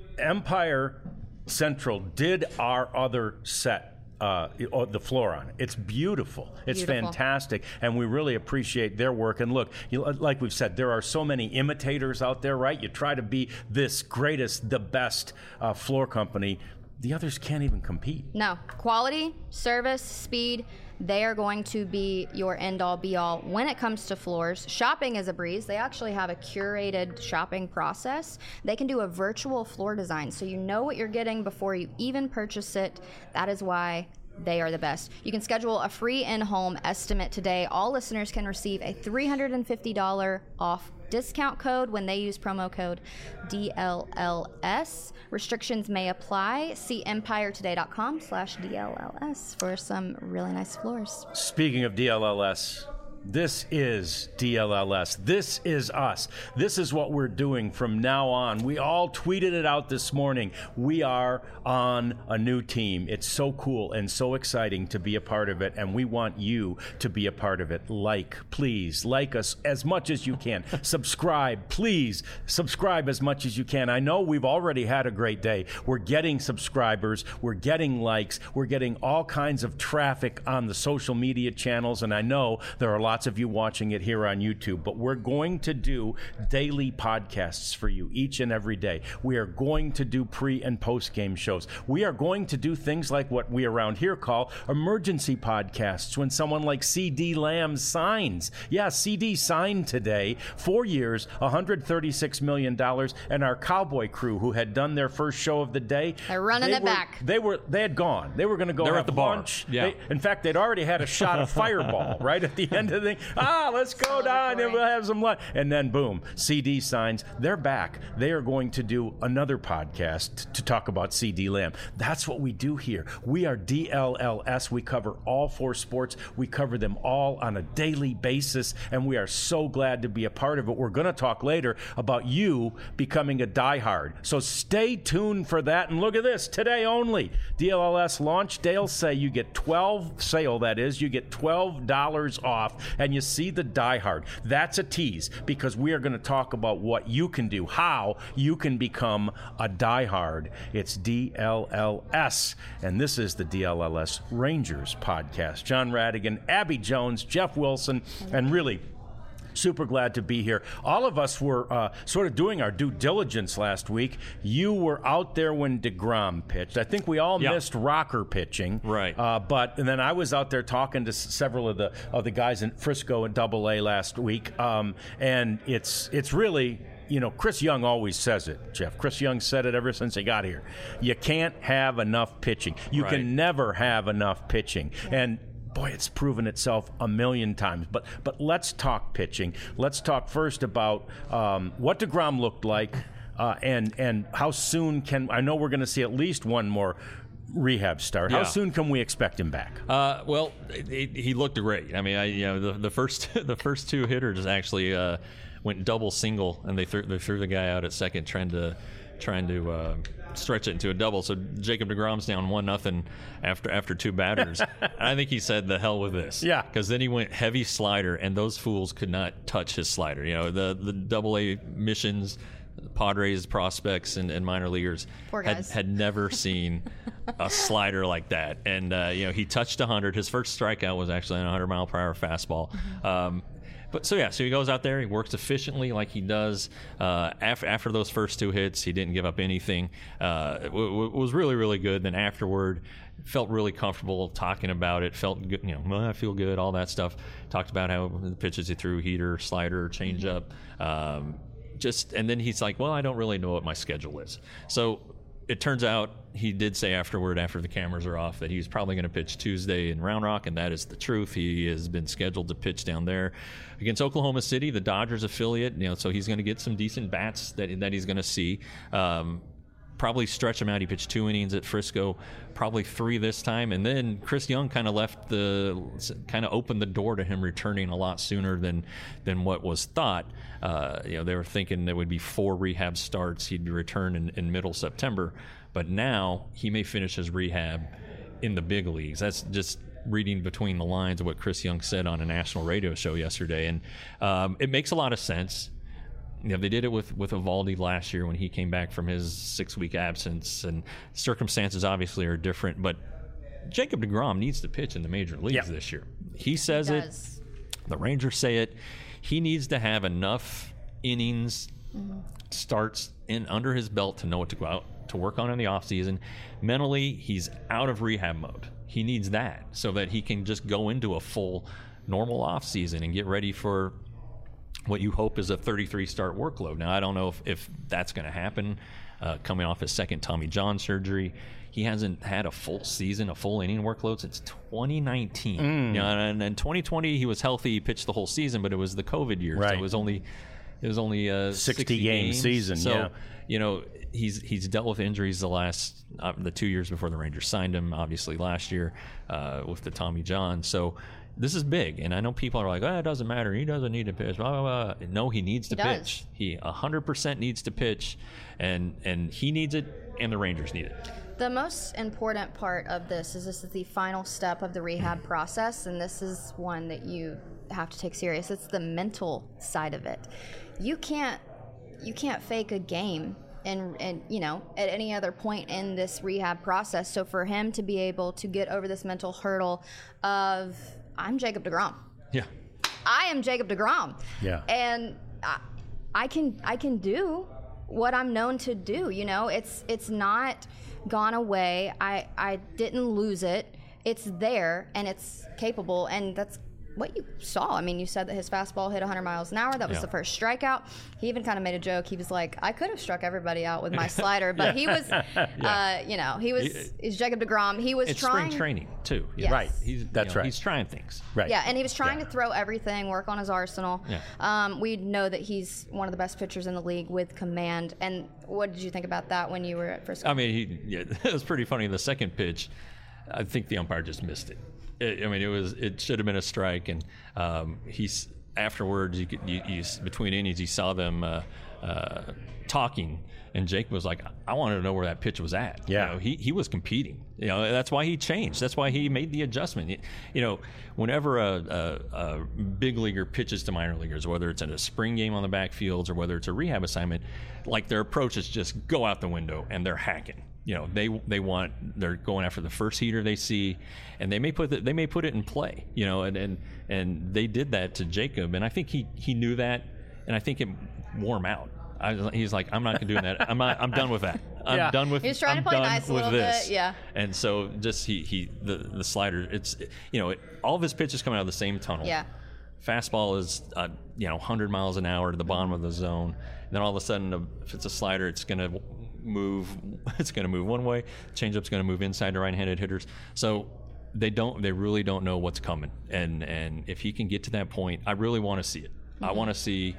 Empire Central did our other set, uh, the floor on it. It's beautiful. It's Beautiful. fantastic, and we really appreciate their work. And look, you, like we've said, there are so many imitators out there, right? You try to be this greatest, the best uh, floor company. The others can't even compete. No. Quality, service, speed, they are going to be your end-all, be-all when it comes to floors. Shopping is a breeze. They actually have a curated shopping process. They can do a virtual floor design, so you know what you're getting before you even purchase it. That is why they are the best. You can schedule a free in-home estimate today. All listeners can receive a three hundred fifty dollars off discount code when they use promo code D L L S. Restrictions may apply. See empiretoday.com slash DLLS for some really nice floors. Speaking of D L L S, this is D L L S. This is us. This is what we're doing from now on. We all tweeted it out this morning. We are on a new team. It's so cool and so exciting to be a part of it, and we want you to be a part of it. Like, please, like us as much as you can. Subscribe, please. Subscribe as much as you can. I know we've already had a great day. We're getting subscribers. We're getting likes. We're getting all kinds of traffic on the social media channels, and I know there are lots of you watching it here on YouTube, but we're going to do daily podcasts for you each and every day. We are going to do pre and post game shows. We are going to do things like what we around here call emergency podcasts when someone like C D Lamb signs. Yeah, C D signed today, four years, one hundred thirty-six million dollars, and our Cowboy crew who had done their first show of the day. They're running they it were, back. They were, they had gone. They were going to go They're have at the bar. lunch. Yeah. They, in fact, they'd already had a shot of Fireball right at the end of the thing. Ah, let's go down and we'll have some lunch. And then boom, C D signs. They're back. They are going to do another podcast to talk about C D Lamb. That's what we do here. We are D L L S. We cover all four sports. We cover them all on a daily basis, and we are so glad to be a part of it. We're going to talk later about you becoming a diehard. So stay tuned for that. And look at this, today only. D L L S launch day will say you get twelve sale, that is, you get twelve dollars off and you see the diehard. That's a tease, because we are going to talk about what you can do, how you can become a diehard. It's D L L S, and this is the D L L S Rangers podcast. John Radigan, Abby Jones, Jeff Wilson, and really super glad to be here. All of us were uh, sort of doing our due diligence last week. You were out there when DeGrom pitched. I think we all yeah. missed Rocker pitching. Right. Uh, but and then I was out there talking to s- several of the of the guys in Frisco and Double A last week. Um, and it's it's really, you know, Chris Young always says it, Jeff. Chris Young said it ever since he got here. You can't have enough pitching. You right. can never have enough pitching. And boy, it's proven itself a million times. But but let's talk pitching. Let's talk first about um, what DeGrom looked like, uh, and and how soon can I know we're going to see at least one more rehab start. Yeah. How soon can we expect him back? Uh, well, he, he looked great. I mean, I you know the, the first the first two hitters actually uh, went double single, and they threw they threw the guy out at second, trying to trying to. Uh, stretch it into a double. So Jacob DeGrom's down one nothing after after two batters. I think he said, "The hell with this." Yeah. Because then he went heavy slider, and those fools could not touch his slider. You know, the the Double A missions, Padres prospects and, and minor leaguers Poor had, guys. had never seen a slider like that. And uh, you know, he touched one hundred. His first strikeout was actually on a one hundred mile per hour fastball. Mm-hmm. Um, But so yeah, so he goes out there, he works efficiently like he does. Uh, after after those first two hits, he didn't give up anything. Uh, it w- w- was really really good. Then afterward, felt really comfortable talking about it. Felt good, you know, well, I feel good, all that stuff. Talked about how the pitches he threw, heater, slider, changeup. Um, just and then he's like, well, I don't really know what my schedule is. So it turns out he did say afterward, after the cameras are off, that he was probably going to pitch Tuesday in Round Rock, and that is the truth. He has been scheduled to pitch down there against Oklahoma City, the Dodgers affiliate. You know, so he's going to get some decent bats that that he's going to see. Um, probably stretch him out. He pitched two innings at Frisco, probably three this time, and then Chris Young kind of left the kind of opened the door to him returning a lot sooner than than what was thought. Uh, you know, they were thinking there would be four rehab starts. He'd return in, in middle September, but now he may finish his rehab in the big leagues. That's just reading between the lines of what Chris Young said on a national radio show yesterday, and um, it makes a lot of sense. You know, they did it with, with Evaldi last year when he came back from his six-week absence, and circumstances obviously are different, but Jacob DeGrom needs to pitch in the major leagues yeah. this year. He says He it. does. The Rangers say it. He needs to have enough innings, mm-hmm. starts in under his belt to know what to go out to work on in the offseason. Mentally, he's out of rehab mode. He needs that so that he can just go into a full normal offseason and get ready for what you hope is a thirty-three start workload. Now, I don't know if, if that's going to happen. Uh, coming off his second Tommy John surgery, he hasn't had a full season, a full inning workload since twenty nineteen. Mm. You know, and in twenty twenty, he was healthy, he pitched the whole season, but it was the COVID year, right. so it was only it was only a sixty game season. So, yeah. you know, he's he's dealt with injuries the last uh, the two years before the Rangers signed him. Obviously, last year uh, with the Tommy John. So. This is big, and I know people are like, oh, it doesn't matter. He doesn't need to pitch. Blah, blah, blah. No, he needs to He does. pitch. He one hundred percent needs to pitch, and and he needs it, and the Rangers need it. The most important part of this is this is the final step of the rehab process, and this is one that you have to take serious. It's the mental side of it. You can't you can't fake a game and and you know at any other point in this rehab process. So for him to be able to get over this mental hurdle of I'm Jacob DeGrom. Yeah. I am Jacob DeGrom. Yeah. And I, I can I can do what I'm known to do. You know, it's it's not gone away. I I didn't lose it. It's there and it's capable, and that's what you saw. I mean, you said that his fastball hit one hundred miles an hour. That was Yeah. the first strikeout. He even kind of made a joke. He was like, I could have struck everybody out with my slider, but he was, uh, you know, he was, He- he's Jacob DeGrom. He was It's trying. spring training too. Yes. Right. He's That's you know, right. He's trying things. Right. Yeah, and he was trying Yeah. to throw everything, work on his arsenal. Yeah. Um, we know that he's one of the best pitchers in the league with command. And what did you think about that when you were at Frisco? I mean, he yeah, it was pretty funny. The second pitch, I think the umpire just missed it. It, I mean, it was it should have been a strike, and um, he's afterwards, you, could, you, you between innings, you saw them uh, uh, talking, and Jake was like, "I wanted to know where that pitch was at." Yeah, you know, he he was competing. You know, that's why he changed. That's why he made the adjustment. You know, whenever a, a, a big leaguer pitches to minor leaguers, whether it's in a spring game on the backfields or whether it's a rehab assignment, like their approach is just go out the window and they're hacking. You know, they they want they're going after the first heater they see, and they may put the, they may put it in play. You know, and, and and they did that to Jacob, and I think he he knew that, and I think it wore him out. I, he's like, I'm not gonna do that. I'm not. I'm done with that. I'm yeah. done with. He's trying I'm to play done nice a with little this. bit, yeah. And so just he he the the slider. It's you know it, all of his pitches coming out of the same tunnel. Yeah. Fastball is uh, you know one hundred miles an hour to the bottom of the zone. And then all of a sudden, if it's a slider, it's gonna move. It's gonna move one way. Changeup's gonna move inside to right-handed hitters. So they don't. They really don't know what's coming. And and if he can get to that point, I really want to see it. Mm-hmm. I want to see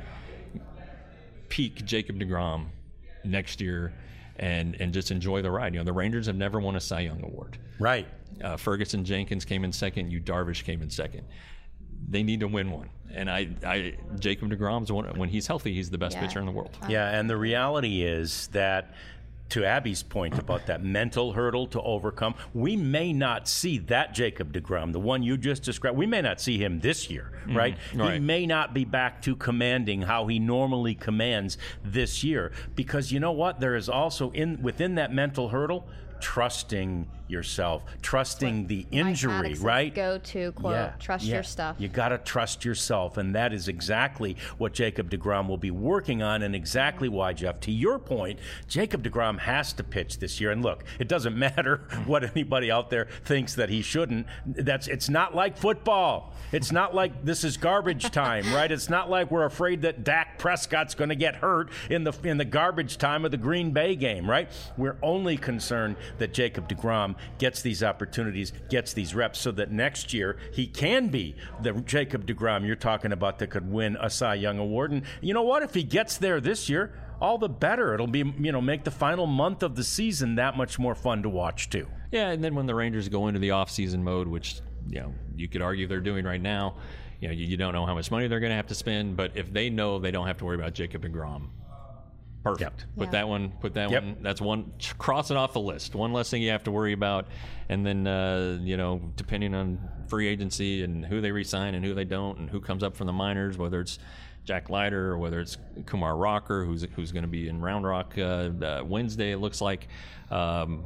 peak Jacob deGrom next year and and just enjoy the ride. You know, the Rangers have never won a Cy Young award. Right. Uh, Ferguson Jenkins came in second. Yu Darvish came in second. They need to win one. And I, I Jacob deGrom's one, when he's healthy, he's the best yeah. pitcher in the world. Yeah, and the reality is that, to Abby's point about that mental hurdle to overcome, we may not see that Jacob deGrom, the one you just described, we may not see him this year, mm-hmm. right? right? He may not be back to commanding how he normally commands this year, because you know what? There is also in within that mental hurdle, trusting yourself, trusting the injury, right? Go to quote, yeah, trust yeah. your stuff. You got to trust yourself, and that is exactly what Jacob deGrom will be working on, and exactly why, Jeff, to your point, Jacob deGrom has to pitch this year. And look, it doesn't matter what anybody out there thinks that he shouldn't. That's it's not like football. It's not like this is garbage time, right? It's not like we're afraid that Dak Prescott's going to get hurt in the in the garbage time of the Green Bay game, right? We're only concerned that Jacob deGrom gets these opportunities, gets these reps, so that next year he can be the Jacob deGrom you're talking about that could win a Cy Young award. And you know what? If he gets there this year, all the better. It'll be, you know, make the final month of the season that much more fun to watch too. Yeah, and then when the Rangers go into the off-season mode, which, you know, you could argue they're doing right now, you know, you, you don't know how much money they're going to have to spend, but if they know they don't have to worry about Jacob deGrom, perfect. Yep. Put Yeah. that one. Put that Yep. one. That's one. Cross it off the list. One less thing you have to worry about. And then, uh, you know, depending on free agency and who they re-sign and who they don't, and who comes up from the minors, whether it's Jack Leiter or whether it's Kumar Rocker, who's who's going to be in Round Rock uh, uh, Wednesday, it looks like. Um,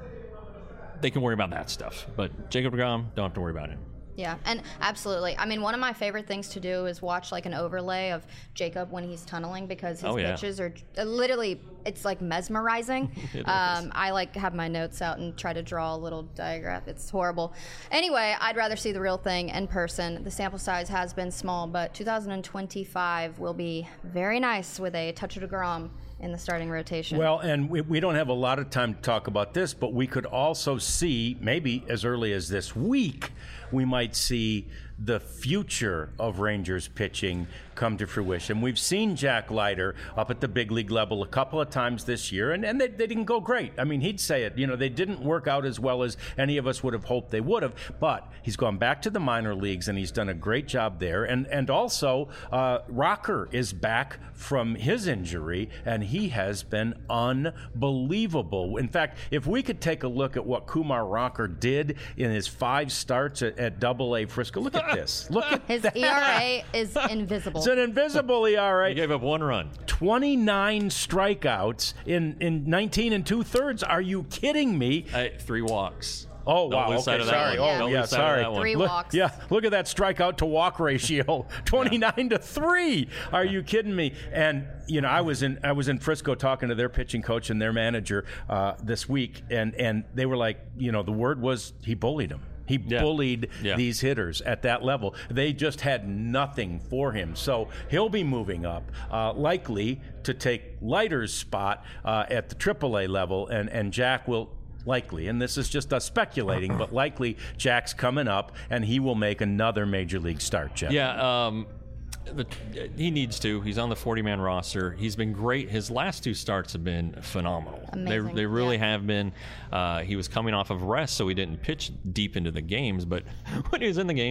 they can worry about that stuff. But Jacob deGrom, don't have to worry about him. Yeah, and absolutely. I mean, one of my favorite things to do is watch like an overlay of Jacob when he's tunneling, because his Oh, yeah. pitches are uh, literally, it's like mesmerizing. It um, is. I like have my notes out and try to draw a little diagram. It's horrible. Anyway, I'd rather see the real thing in person. The sample size has been small, but two thousand twenty-five will be very nice with a touch of deGrom in the starting rotation. Well, and we, we don't have a lot of time to talk about this, but we could also see, maybe as early as this week, we might see the future of Rangers pitching come to fruition. We've seen Jack Leiter up at the big league level a couple of times this year, and, and they, they didn't go great. I mean, he'd say it. You know, they didn't work out as well as any of us would have hoped they would have, but he's gone back to the minor leagues, and he's done a great job there. And, and also, uh, Rocker is back from his injury, and he has been unbelievable. In fact, if we could take a look at what Kumar Rocker did in his five starts at, at Double A Frisco, look at this. Look at his that. E R A is invisible. It's an invisible E R A. He gave up one run. twenty-nine strikeouts in, in nineteen and two thirds. Are you kidding me? Hey, three walks. Oh, Don't wow. lose sight Okay, of that sorry. one. Yeah. Oh, Don't yeah, lose sight of sorry. that one. Three Look, walks. yeah, look at that strikeout to walk ratio, twenty-nine to three. Are you kidding me? And you know, I was in I was in Frisco talking to their pitching coach and their manager uh, this week, and and they were like, you know, the word was he bullied them. He Yeah. bullied Yeah. these hitters at that level. They just had nothing for him. So he'll be moving up, uh, likely to take Leiter's spot uh, at the triple A level, and, and Jack will likely, and this is just us speculating, but likely Jack's coming up, and he will make another major league start, Jeff. Yeah, um, the, he needs to. He's on the forty-man roster. He's been great. His last two starts have been phenomenal. Amazing, They, they really yeah. have been. Uh, he was coming off of rest, so he didn't pitch deep into the games. But when he was in the games,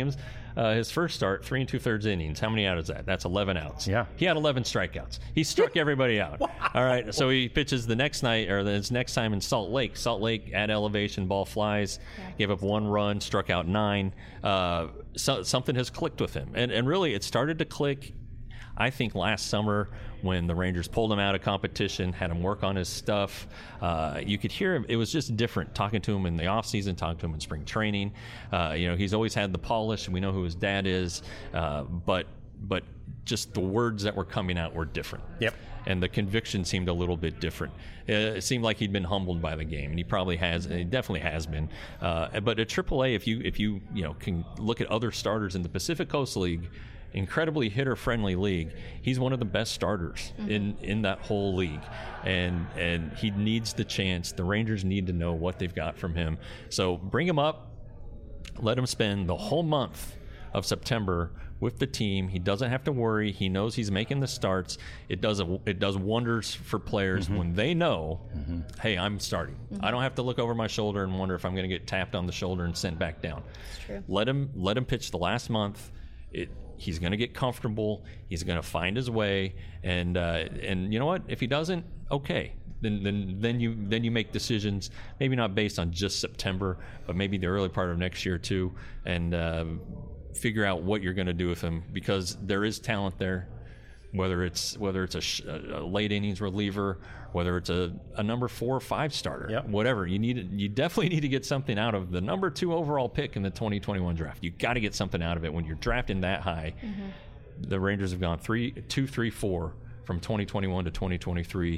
uh, his first start, three and two thirds innings. How many outs is that? That's eleven outs. Yeah. He had eleven strikeouts. He struck everybody out. Wow. All right. So he pitches the next night, or his next time in Salt Lake. Salt Lake at elevation, ball flies, yeah. gave up one run, struck out nine. Uh, so, something has clicked with him. And, and really, it started to click, I think, last summer when the Rangers pulled him out of competition, had him work on his stuff. Uh, you could hear him. It was just different talking to him in the offseason, talking to him in spring training. Uh, you know, he's always had the polish, and we know who his dad is. Uh, but but just the words that were coming out were different. Yep. And the conviction seemed a little bit different. It seemed like he'd been humbled by the game, and he probably has. And he definitely has been. Uh, but at triple A, if you if you you know can look at other starters in the Pacific Coast League, incredibly hitter-friendly league, he's one of the best starters mm-hmm. in, in that whole league, and and he needs the chance. The Rangers need to know what they've got from him. So bring him up, let him spend the whole month of September with the team. He doesn't have to worry. He knows he's making the starts. It does a, it does wonders for players mm-hmm. when they know, mm-hmm. hey, I'm starting. Mm-hmm. I don't have to look over my shoulder and wonder if I'm going to get tapped on the shoulder and sent back down. That's true. Let him let him pitch the last month. It, he's going to get comfortable. He's going to find his way, and uh, and you know what? If he doesn't, okay. Then then then you then you make decisions. Maybe not based on just September, but maybe the early part of next year too, and uh, figure out what you're going to do with him, because there is talent there. Whether it's whether it's a, sh- a late innings reliever, whether it's a, a number four or five starter, yep. whatever you need, you definitely need to get something out of the number two overall pick in the twenty twenty-one draft. You got to get something out of it when you're drafting that high. Mm-hmm. The Rangers have gone three, two, three, four from twenty twenty-one to twenty twenty-three.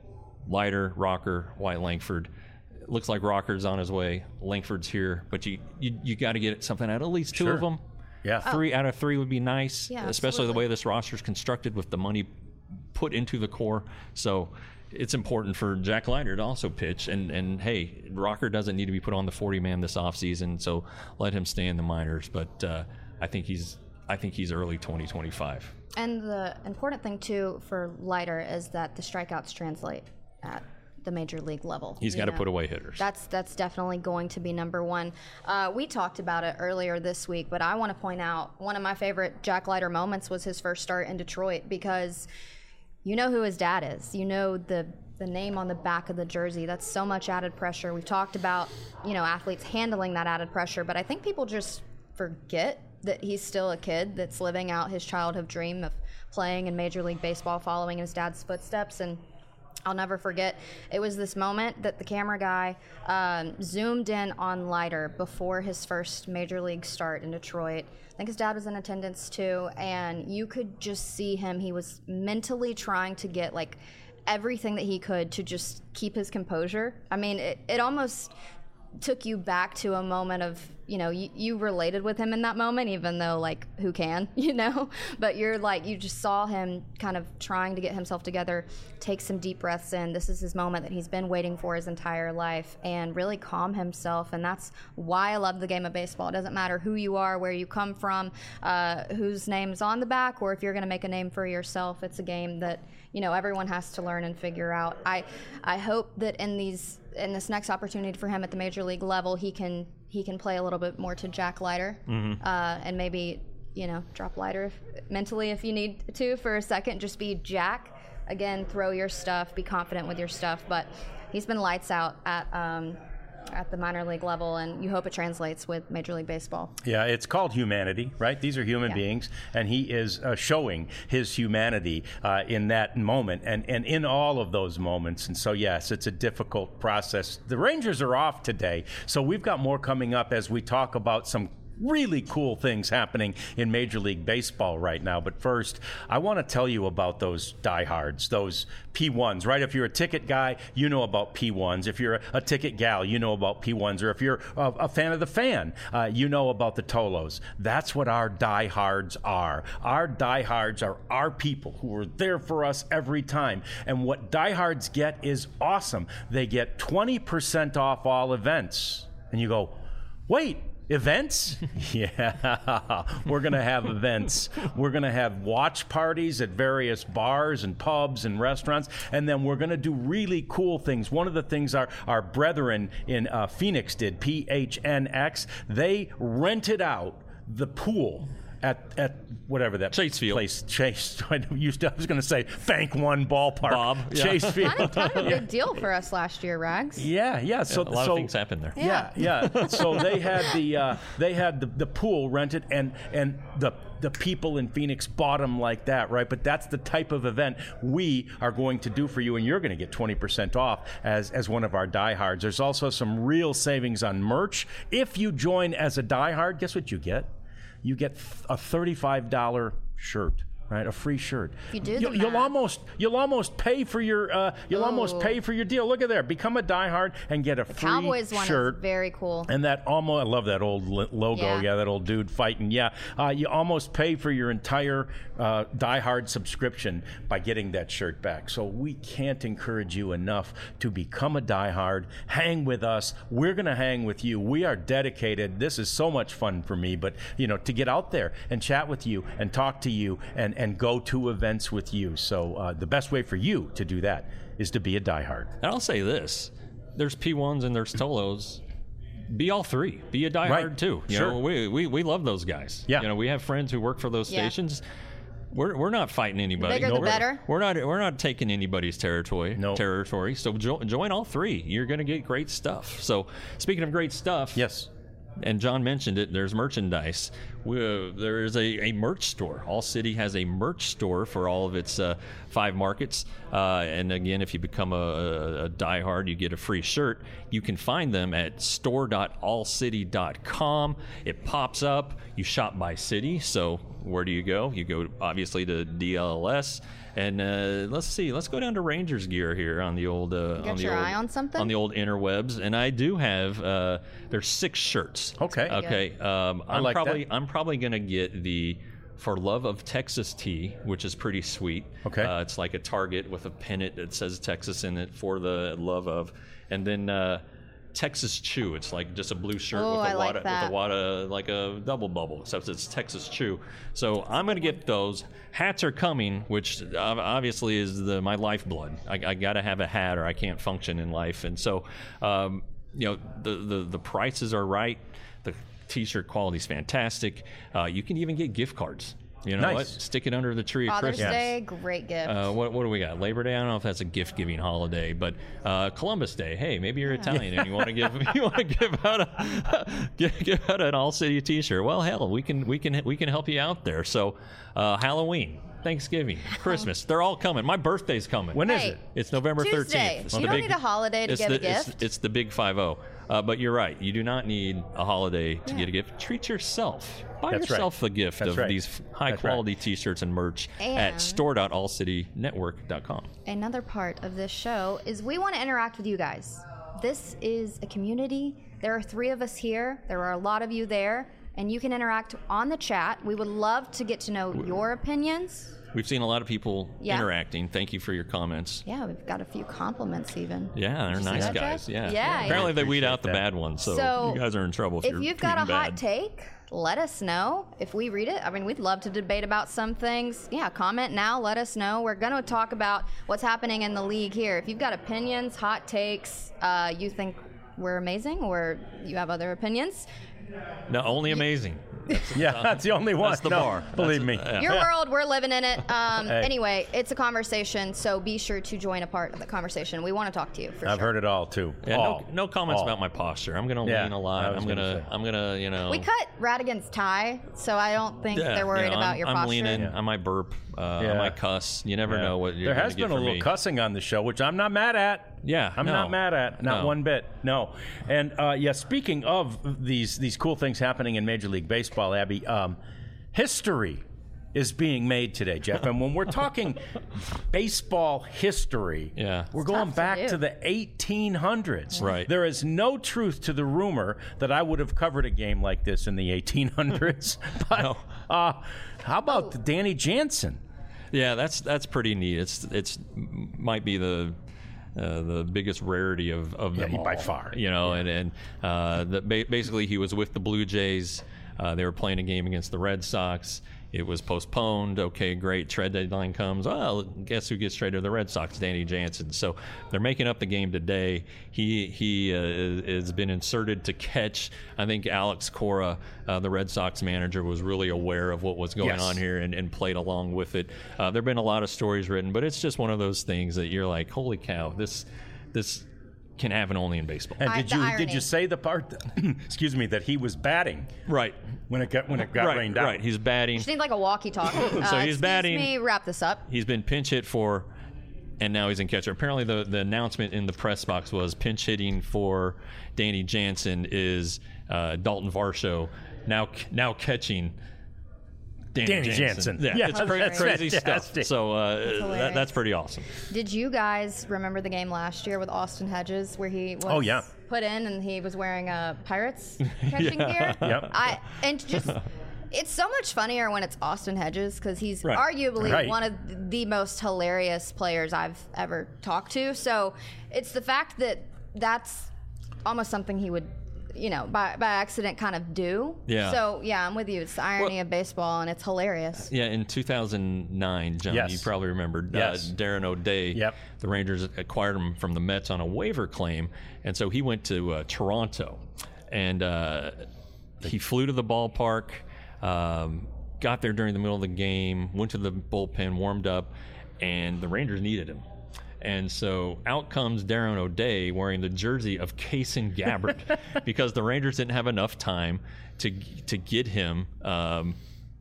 Leiter, Rocker, White, Langford. It looks like Rocker's on his way. Langford's here, but you you, you got to get something out of at least two sure. of them. Yeah, three oh. out of three would be nice, yeah, especially absolutely. the way this roster is constructed with the money put into the core. So it's important for Jack Leiter to also pitch. And, and hey, Rocker doesn't need to be put on the forty man this offseason, so let him stay in the minors. But uh, I think he's I think he's early twenty twenty-five. And the important thing too for Leiter is that the strikeouts translate at the major league level. He's got to put away hitters. That's that's definitely going to be number one. Uh, we talked about it earlier this week, but I want to point out one of my favorite Jack Leiter moments was his first start in Detroit, because you know who his dad is. You know the the name on the back of the jersey. That's so much added pressure. We've talked about, you know, athletes handling that added pressure, but I think people just forget that he's still a kid that's living out his childhood dream of playing in Major League Baseball, following in his dad's footsteps. And I'll never forget, it was this moment that the camera guy um, zoomed in on Leiter before his first major league start in Detroit. I think his dad was in attendance too, and you could just see him. He was mentally trying to get like everything that he could to just keep his composure. I mean, it, it almost took you back to a moment of, you know, you, you related with him in that moment, even though, like, who can, you know? But you're like, you just saw him kind of trying to get himself together, take some deep breaths in. This is his moment that he's been waiting for his entire life, and really calm himself. And that's why I love the game of baseball. It doesn't matter who you are, where you come from, uh, whose name's on the back, or if you're going to make a name for yourself. It's a game that, you know, everyone has to learn and figure out. I, I hope that in these in this next opportunity for him at the major league level, he can he can play a little bit more to Jack Leiter, mm-hmm. uh, and maybe, you know, drop Leiter if, mentally if you need to for a second. Just be Jack again. Throw your stuff. Be confident with your stuff. But he's been lights out at um, at the minor league level, and you hope it translates with Major League Baseball. Yeah, it's called humanity, right? These are human yeah. beings, and he is uh, showing his humanity uh, in that moment and, and in all of those moments. And so, yes, it's a difficult process. The Rangers are off today, so we've got more coming up as we talk about some really cool things happening in Major League Baseball right now. But first, I want to tell you about those diehards, those P ones, right? If you're a ticket guy, you know about P ones. If you're a ticket gal, you know about P ones. Or if you're a, a fan of the fan, uh, you know about the Tolos. That's what our diehards are. Our diehards are our people who are there for us every time. And what diehards get is awesome. They get twenty percent off all events. And you go, wait, events? Yeah, we're going to have events. We're going to have watch parties at various bars and pubs and restaurants, and then we're going to do really cool things. One of the things our, our brethren in uh, Phoenix did, P H N X, they rented out the pool at at whatever that Chase Field. place. Chase. I used to. I was going to say Bank One Ballpark. Bob, yeah. Chase Field. Kind of, kind of a big deal for us last year, Rags. Yeah, yeah. So a lot so, of things happened there. Yeah, yeah. So they had the uh, they had the, the pool rented, and and the the people in Phoenix bought them like that, right? But that's the type of event we are going to do for you, and you're going to get twenty percent off as as one of our diehards. There's also some real savings on merch. If you join as a diehard, guess what you get? You get a thirty-five dollars shirt. Right, a free shirt. If you do the you'll, you'll math. almost you'll almost pay for your uh, you'll almost Ooh. pay for your deal. Look at there, become a diehard and get a free Cowboys one shirt. is very cool. And that almost, I love that old li- logo. Yeah. Yeah. that old dude fighting. Yeah, uh, you almost pay for your entire uh, Die Hard subscription by getting that shirt back. So we can't encourage you enough to become a Die Hard. Hang with us. We're going to hang with you. We are dedicated. This is so much fun for me. But you know, to get out there and chat with you and talk to you and and go to events with you. So uh, the best way for you to do that is to be a Die Hard. And I'll say this: there's P ones and there's Tolos. Be all three. Be a diehard Right. too. You Sure. know, we, we we love those guys. Yeah. You know, we have friends who work for those Yeah. stations. We're we're not fighting anybody. bigger the we're, better. We're not we're not taking anybody's territory. No. Territory. So jo- join all three. You're going to get great stuff. So speaking of great stuff, Yes. and John mentioned it, there's merchandise. We, uh, there is a, a merch store. All City has a merch store for all of its uh, five markets. Uh, and again, if you become a, a, a diehard, you get a free shirt. You can find them at store dot all city dot com. It pops up. You shop by city. So where do you go? You go, obviously, to D L S. And uh, let's see. Let's go down to Rangers gear here on the old. Uh, got on the your old, eye on something? On the old interwebs, and I do have. Uh, there's six shirts. Okay. Okay. Um, I'm like probably that. I'm probably gonna get the For Love of Texas tee, which is pretty sweet. Okay. Uh, it's like a target with a pennant that says Texas in it, for the love of, and then. Uh, Texas Chew. It's like just a blue shirt Oh, with I a like wada, that. with a wada, like a double bubble, except it's Texas Chew. So I'm going to get those. Hats are coming, which obviously is the my lifeblood. I, I got to have a hat or I can't function in life. And so, um, you know, the, the the prices are right. The T-shirt quality is fantastic. Uh, you can even get gift cards. You know Nice. what? Stick it under the tree at Father's Christmas. Day, great gift. Uh, what, what do we got? Labor Day? I don't know if that's a gift-giving holiday, but uh, Columbus Day. Hey, maybe you're Italian and you want to give you want to give out a give, give out an All City T-shirt. Well, hell, we can we can we can help you out there. So, uh, Halloween, Thanksgiving, Christmas, they're all coming. My birthday's coming. When is Hey, it? It's November Tuesday. thirteenth. You don't need a holiday to it's give a the, it's- gift. It's, the big five zero. Uh, but you're right. You do not need a holiday to Yeah. get a gift. Treat yourself. Buy That's right. yourself a gift That's of right. these That's right. high-quality T-shirts and merch at And- store dot all city network dot com. Another part of this show is we want to interact with you guys. This is a community. There are three of us here. There are a lot of you there, and you can interact on the chat. We would love to get to know your opinions. We've seen a lot of people Yeah. interacting. Thank you for your comments. Yeah, we've got a few compliments even. Yeah, they're Did you see nice that, guys. Jeff? Yeah. Yeah, Apparently yeah. they weed Appreciate out the that. bad ones, so, So, you guys are in trouble if, If you're you've got a tweeting hot bad. take, let us know. If we read it, I mean, we'd love to debate about some things. Yeah, comment now. Let us know. We're going to talk about what's happening in the league here. If you've got opinions, hot takes, uh, you think we're amazing, or you have other opinions, No, only amazing. Yeah, that's the only one. That's the No, bar. Believe That's- me. yeah. your world, we're living in it. Um, Hey. Anyway, it's a conversation, so be sure to join a part of the conversation. We want to talk to you for I've sure. heard it all too. Yeah, all. no, no comments All. about my posture. I'm gonna Yeah, lean a I lot. was I'm gonna gonna, say. I'm gonna, you know. We cut Radigan's tie, so I don't think yeah, they're worried you know, about I'm, your I'm posture. leaning. Yeah. I might burp. Uh, Yeah. I might cuss. You never Yeah. know what you're There gonna has get been a from little me. cussing on the show, which I'm not mad at. Yeah, I'm no. not mad at, not No. one bit. No. And uh, yeah, speaking of these these cool things happening in Major League Baseball, Abby, um, history is being made today, Jeff. And when we're talking baseball history, Yeah. we're It's going tough to back do. to the eighteen hundreds. Right. There is no truth to the rumor that I would have covered a game like this in the eighteen hundreds. But No. uh, how about Danny Jansen? Yeah, that's that's pretty neat. It's it's might be the uh, the biggest rarity of of them Yeah, by all, far. You know, and and uh, the, ba- basically he was with the Blue Jays. Uh, they were playing a game against the Red Sox. It was postponed. Okay, great. Trade deadline comes. Well, guess who gets traded to the Red Sox? Danny Jansen. So they're making up the game today. He he uh, has been inserted to catch. I think Alex Cora, uh, the Red Sox manager, was really aware of what was going Yes. on here and, and played along with it. Uh, there have been a lot of stories written, but it's just one of those things that you're like, holy cow, this this can happen only in baseball. And I- did the you irony. did you say the part? That, excuse me, that he was batting Right. when it got when it got right, rained out. right. He's batting. Just need like a walkie-talkie. Uh, So he's excuse batting- me, wrap this up. He's been pinch hit for, and now he's in catcher. Apparently, the, the announcement in the press box was pinch hitting for Danny Jansen is uh, Dalton Varsho, now now catching Danny, Danny Jansen. Jansen. Yeah, Yeah, it's cra- that's crazy stuff. fantastic. So uh, that, hilarious. that's pretty awesome. Did you guys remember the game last year with Austin Hedges where he was Oh, yeah. put in and he was wearing a Pirates catching Yeah. gear? Yep. I and just it's so much funnier when it's Austin Hedges because he's Right. arguably Right. one of the most hilarious players I've ever talked to. So it's the fact that that's almost something he would, you know, by, by accident kind of do. Yeah. So yeah, I'm with you. It's the irony Well- of baseball and it's hilarious. Yeah, in two thousand nine, John, Yes. you probably remember Yes. uh, Darren O'Day. Yep. The Rangers acquired him from the Mets on a waiver claim, and so he went to uh, Toronto, and uh, he flew to the ballpark, um, got there during the middle of the game, went to the bullpen, warmed up, and the Rangers needed him. And so out comes Darren O'Day wearing the jersey of Kaysen Gabbard because the Rangers didn't have enough time to to get him um,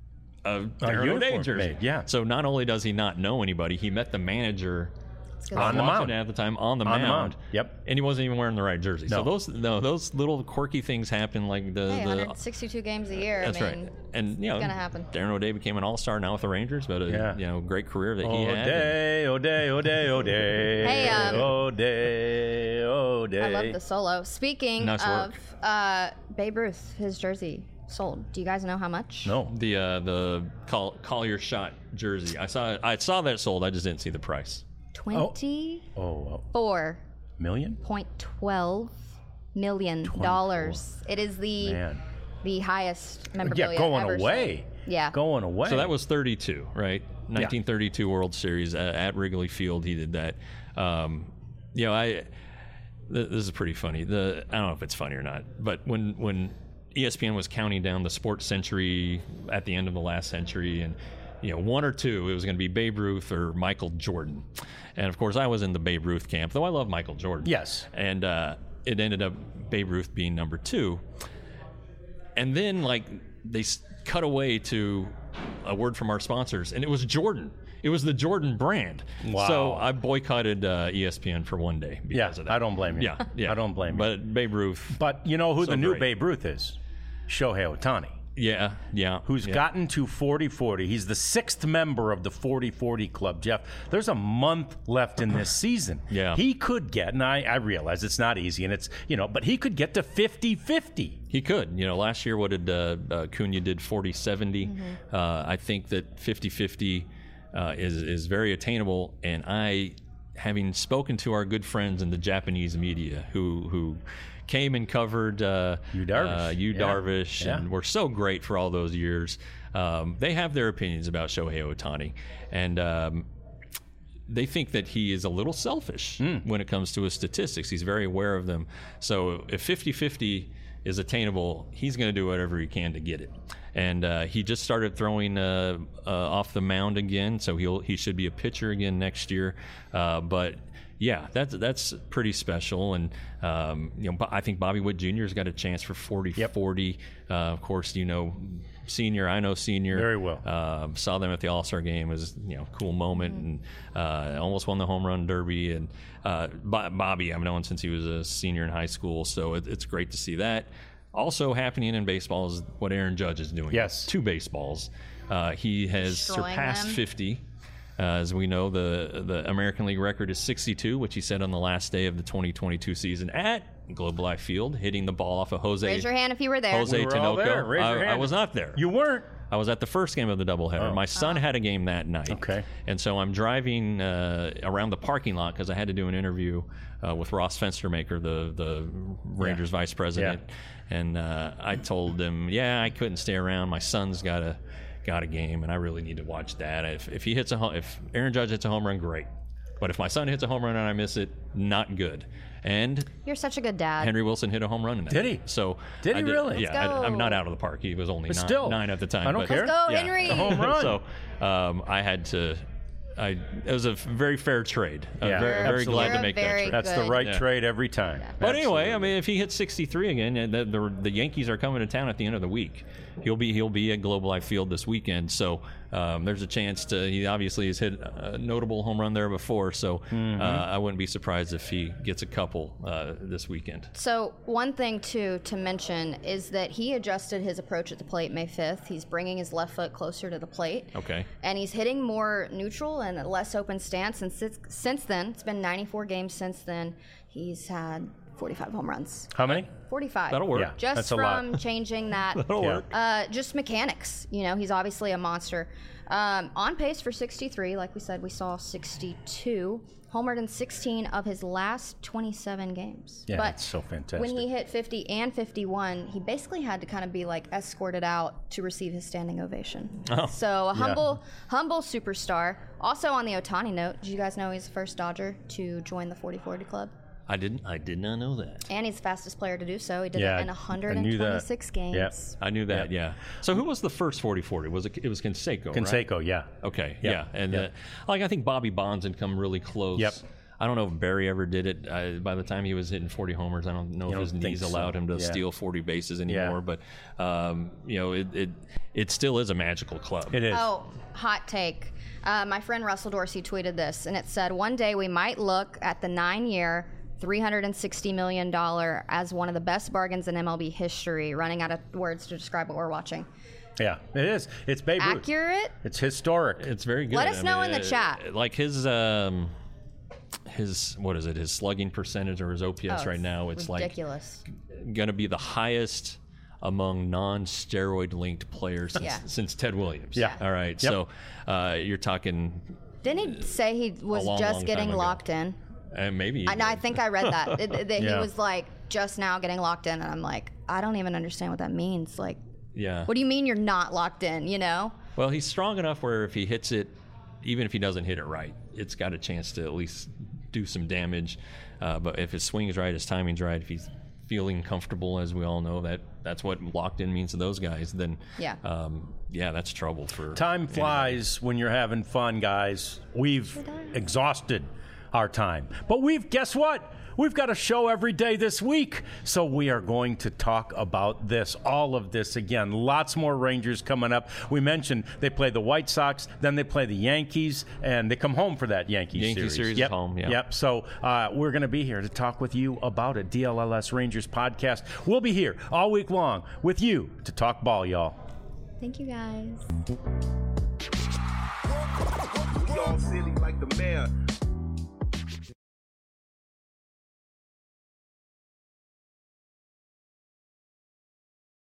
a Darren O'Day uniform jersey. made, yeah. So not only does he not know anybody, he met the manager It's good On the stuff. watching mound. at the time on the On the mound. mound, yep. And he wasn't even wearing the right jersey. So No. those no those little quirky things happen like the, Hey, the one hundred sixty-two games a year. that's I mean, right. And you know, gonna happen. Darren O'Day became an all-star now with the Rangers, but a Yeah. you know great career that he had. and- O'Day, O'Day, O'Day, O'Day. Hey, um, O'Day, O'Day. I love the solo. Speaking Nice of work. uh, Babe Ruth, his jersey sold. Do you guys know how much? No. The uh, the Col- Collier shot jersey. I saw I saw that sold. I just didn't see the price. Twenty-four Oh, uh, million? point twelve million dollars. It is the Man. the highest Yeah, memorabilia going ever away. sold. Yeah. Going away. So that was thirty-two, right? nineteen thirty-two World Series uh, at Wrigley Field. He did that. Um, you know, I th- this is pretty funny. The I don't know if it's funny or not, but when when E S P N was counting down the sports century at the end of the last century, and you know, one or two, it was going to be Babe Ruth or Michael Jordan. And of course, I was in the Babe Ruth camp, though I love Michael Jordan. Yes. And uh, it ended up Babe Ruth being number two. And then, like, they s- cut away to a word from our sponsors, and it was Jordan. It was the Jordan brand. Wow. So I boycotted uh, E S P N for one day because Yeah, of that. I don't blame you. Yeah, yeah. I don't blame you. But Babe Ruth, But you know who So the new great. Babe Ruth is? Shohei Ohtani, yeah, yeah. who's yeah. gotten to forty forty. He's the sixth member of the forty forty club, Jeff. There's a month left in this season. Yeah. He could get, and I, I realize it's not easy, and it's, you know, but he could get to fifty fifty. He could. You know, last year, what did uh, uh, Cunha did forty seventy. Mm-hmm. Uh, I think that fifty fifty uh, is, is very attainable. And I, having spoken to our good friends in the Japanese media who who came and covered uh, Yu Darvish. uh, Yu Yeah. Darvish Yeah. and were so great for all those years, um, they have their opinions about Shohei Ohtani. And um, they think that he is a little selfish when it comes to his statistics. He's very aware of them. So if fifty fifty is attainable, he's going to do whatever he can to get it. And uh, he just started throwing uh, uh, off the mound again, so he'll he should be a pitcher again next year. Uh, but yeah, that's that's pretty special. And um, you know, Bo- I think Bobby Witt Junior has got a chance for forty forty. Uh, of course, you know, senior. I know senior Very well. uh, saw them at the All-Star game. It was, you know, a cool moment, and uh, almost won the home run derby. And uh, Bo- Bobby, I've known since he was a senior in high school, so it, it's great to see that. Also happening in baseball is what Aaron Judge is doing. Yes. Two baseballs. Uh, he has Destroying surpassed them. fifty. Uh, as we know, the the American League record is sixty-two, which he set on the last day of the twenty twenty-two season at Globe Life Field, hitting the ball off of Jose. Raise your hand if you were there. Jose We were all Tinoco. there. Raise your I, I hand. was not there. You weren't. I was at the first game of the doubleheader. Oh. My son had a game that night. Okay. And so I'm driving uh, around the parking lot because I had to do an interview uh, with Ross Fenstermaker, the the Rangers vice president. And uh, I told him, yeah, I couldn't stay around. My son's got a got a game, and I really need to watch that. If if he hits a home, if Aaron Judge hits a home run, great. But if my son hits a home run and I miss it, not good. And You're such a good dad. Henry Wilson hit a home run in that. Did he? game. So Did he I really? Yeah, Let's I, I'm go. not out of the park. He was only But nine, still, nine at the time. I don't but, care. Let's go, Yeah. Henry. A home run. So um, I had to. I it was a very fair trade. I'm Yeah, very, very absolutely. glad You're to a make very that trade. That's the Good. right Yeah. trade every time. But anyway, I Absolutely. mean, if he hits sixty-three again, and the, the the Yankees are coming to town at the end of the week, he'll be he'll be at Globe Life Field this weekend. So um, there's a chance to. He obviously has hit a notable home run there before, so Mm-hmm. uh, I wouldn't be surprised if he gets a couple uh, this weekend. So one thing too to mention is that he adjusted his approach at the plate May fifth. He's bringing his left foot closer to the plate. Okay. And he's hitting more neutral and a less open stance. And since, since then, it's been ninety-four games since then, he's had forty-five home runs. How many? forty-five. That'll work. Yeah. Just That's a lot. from changing that. That'll Yeah. work. Uh, just mechanics. You know, he's obviously a monster. Um, on pace for sixty-three. Like we said, we saw sixty-two. Homered in sixteen of his last twenty-seven games. Yeah, but that's so fantastic. when he hit fifty and fifty-one, he basically had to kind of be like escorted out to receive his standing ovation. Oh. So a humble, humble superstar. Also on the Ohtani note, did you guys know he's the first Dodger to join the forty forty club? I didn't. I did not know that. And he's the fastest player to do so. He did Yeah, it in I- one I knew that. twenty-six games. Yeah. I knew that. Yeah. So who was the first forty forty? Was it? It was Canseco. Right? Canseco, yeah. Okay. Yep. Yeah. And Yep. uh, like I think Bobby Bonds had come really close. Yep. I don't know if Barry ever did it. Uh, by the time he was hitting forty homers, I don't know You if his don't think knees so. allowed him to Yeah. steal forty bases anymore. But um, you know, it, it it still is a magical club. It is. Oh, hot take. Uh, my friend Russell Dorsey tweeted this, and it said, one day we might look at the nine-year, three hundred sixty million dollars as one of the best bargains in M L B history, running out of words to describe what we're watching. Yeah, it is. It's Babe Ruth. Accurate? It's historic. It's very good. Let us I know mean, in the uh, chat. Like his um, his what is it? His slugging percentage or his O P S Oh, right now? It's ridiculous. like going to be the highest among non-steroid linked players since, Yeah. since Ted Williams. Yeah. All right. Yep. So uh, you're talking, Didn't he say he was long, just long getting time ago. locked in? and maybe. I, know, I think I read that. it- that Yeah. he was like just now getting locked in, and I'm like, I don't even understand what that means. Like, Yeah. what do you mean you're not locked in, you know? Well, he's strong enough where if he hits it, even if he doesn't hit it right, it's got a chance to at least do some damage. Uh, but if his swing's right, his timing's right, if he's feeling comfortable, as we all know, that that's what locked in means to those guys, then Yeah. um, yeah, that's trouble for Time flies when you're having fun, guys. We've exhausted our time. But we've, guess what? We've got a show every day this week. So we are going to talk about this, all of this again. Lots more Rangers coming up. We mentioned they play the White Sox, then they play the Yankees, and they come home for that Yankee, Yankee series. series is Yep. home, yeah. Yep. So uh, we're going to be here to talk with you about it. D L L S Rangers podcast. We'll be here all week long with you to talk ball, y'all. Thank you, guys. We all silly like the mayor.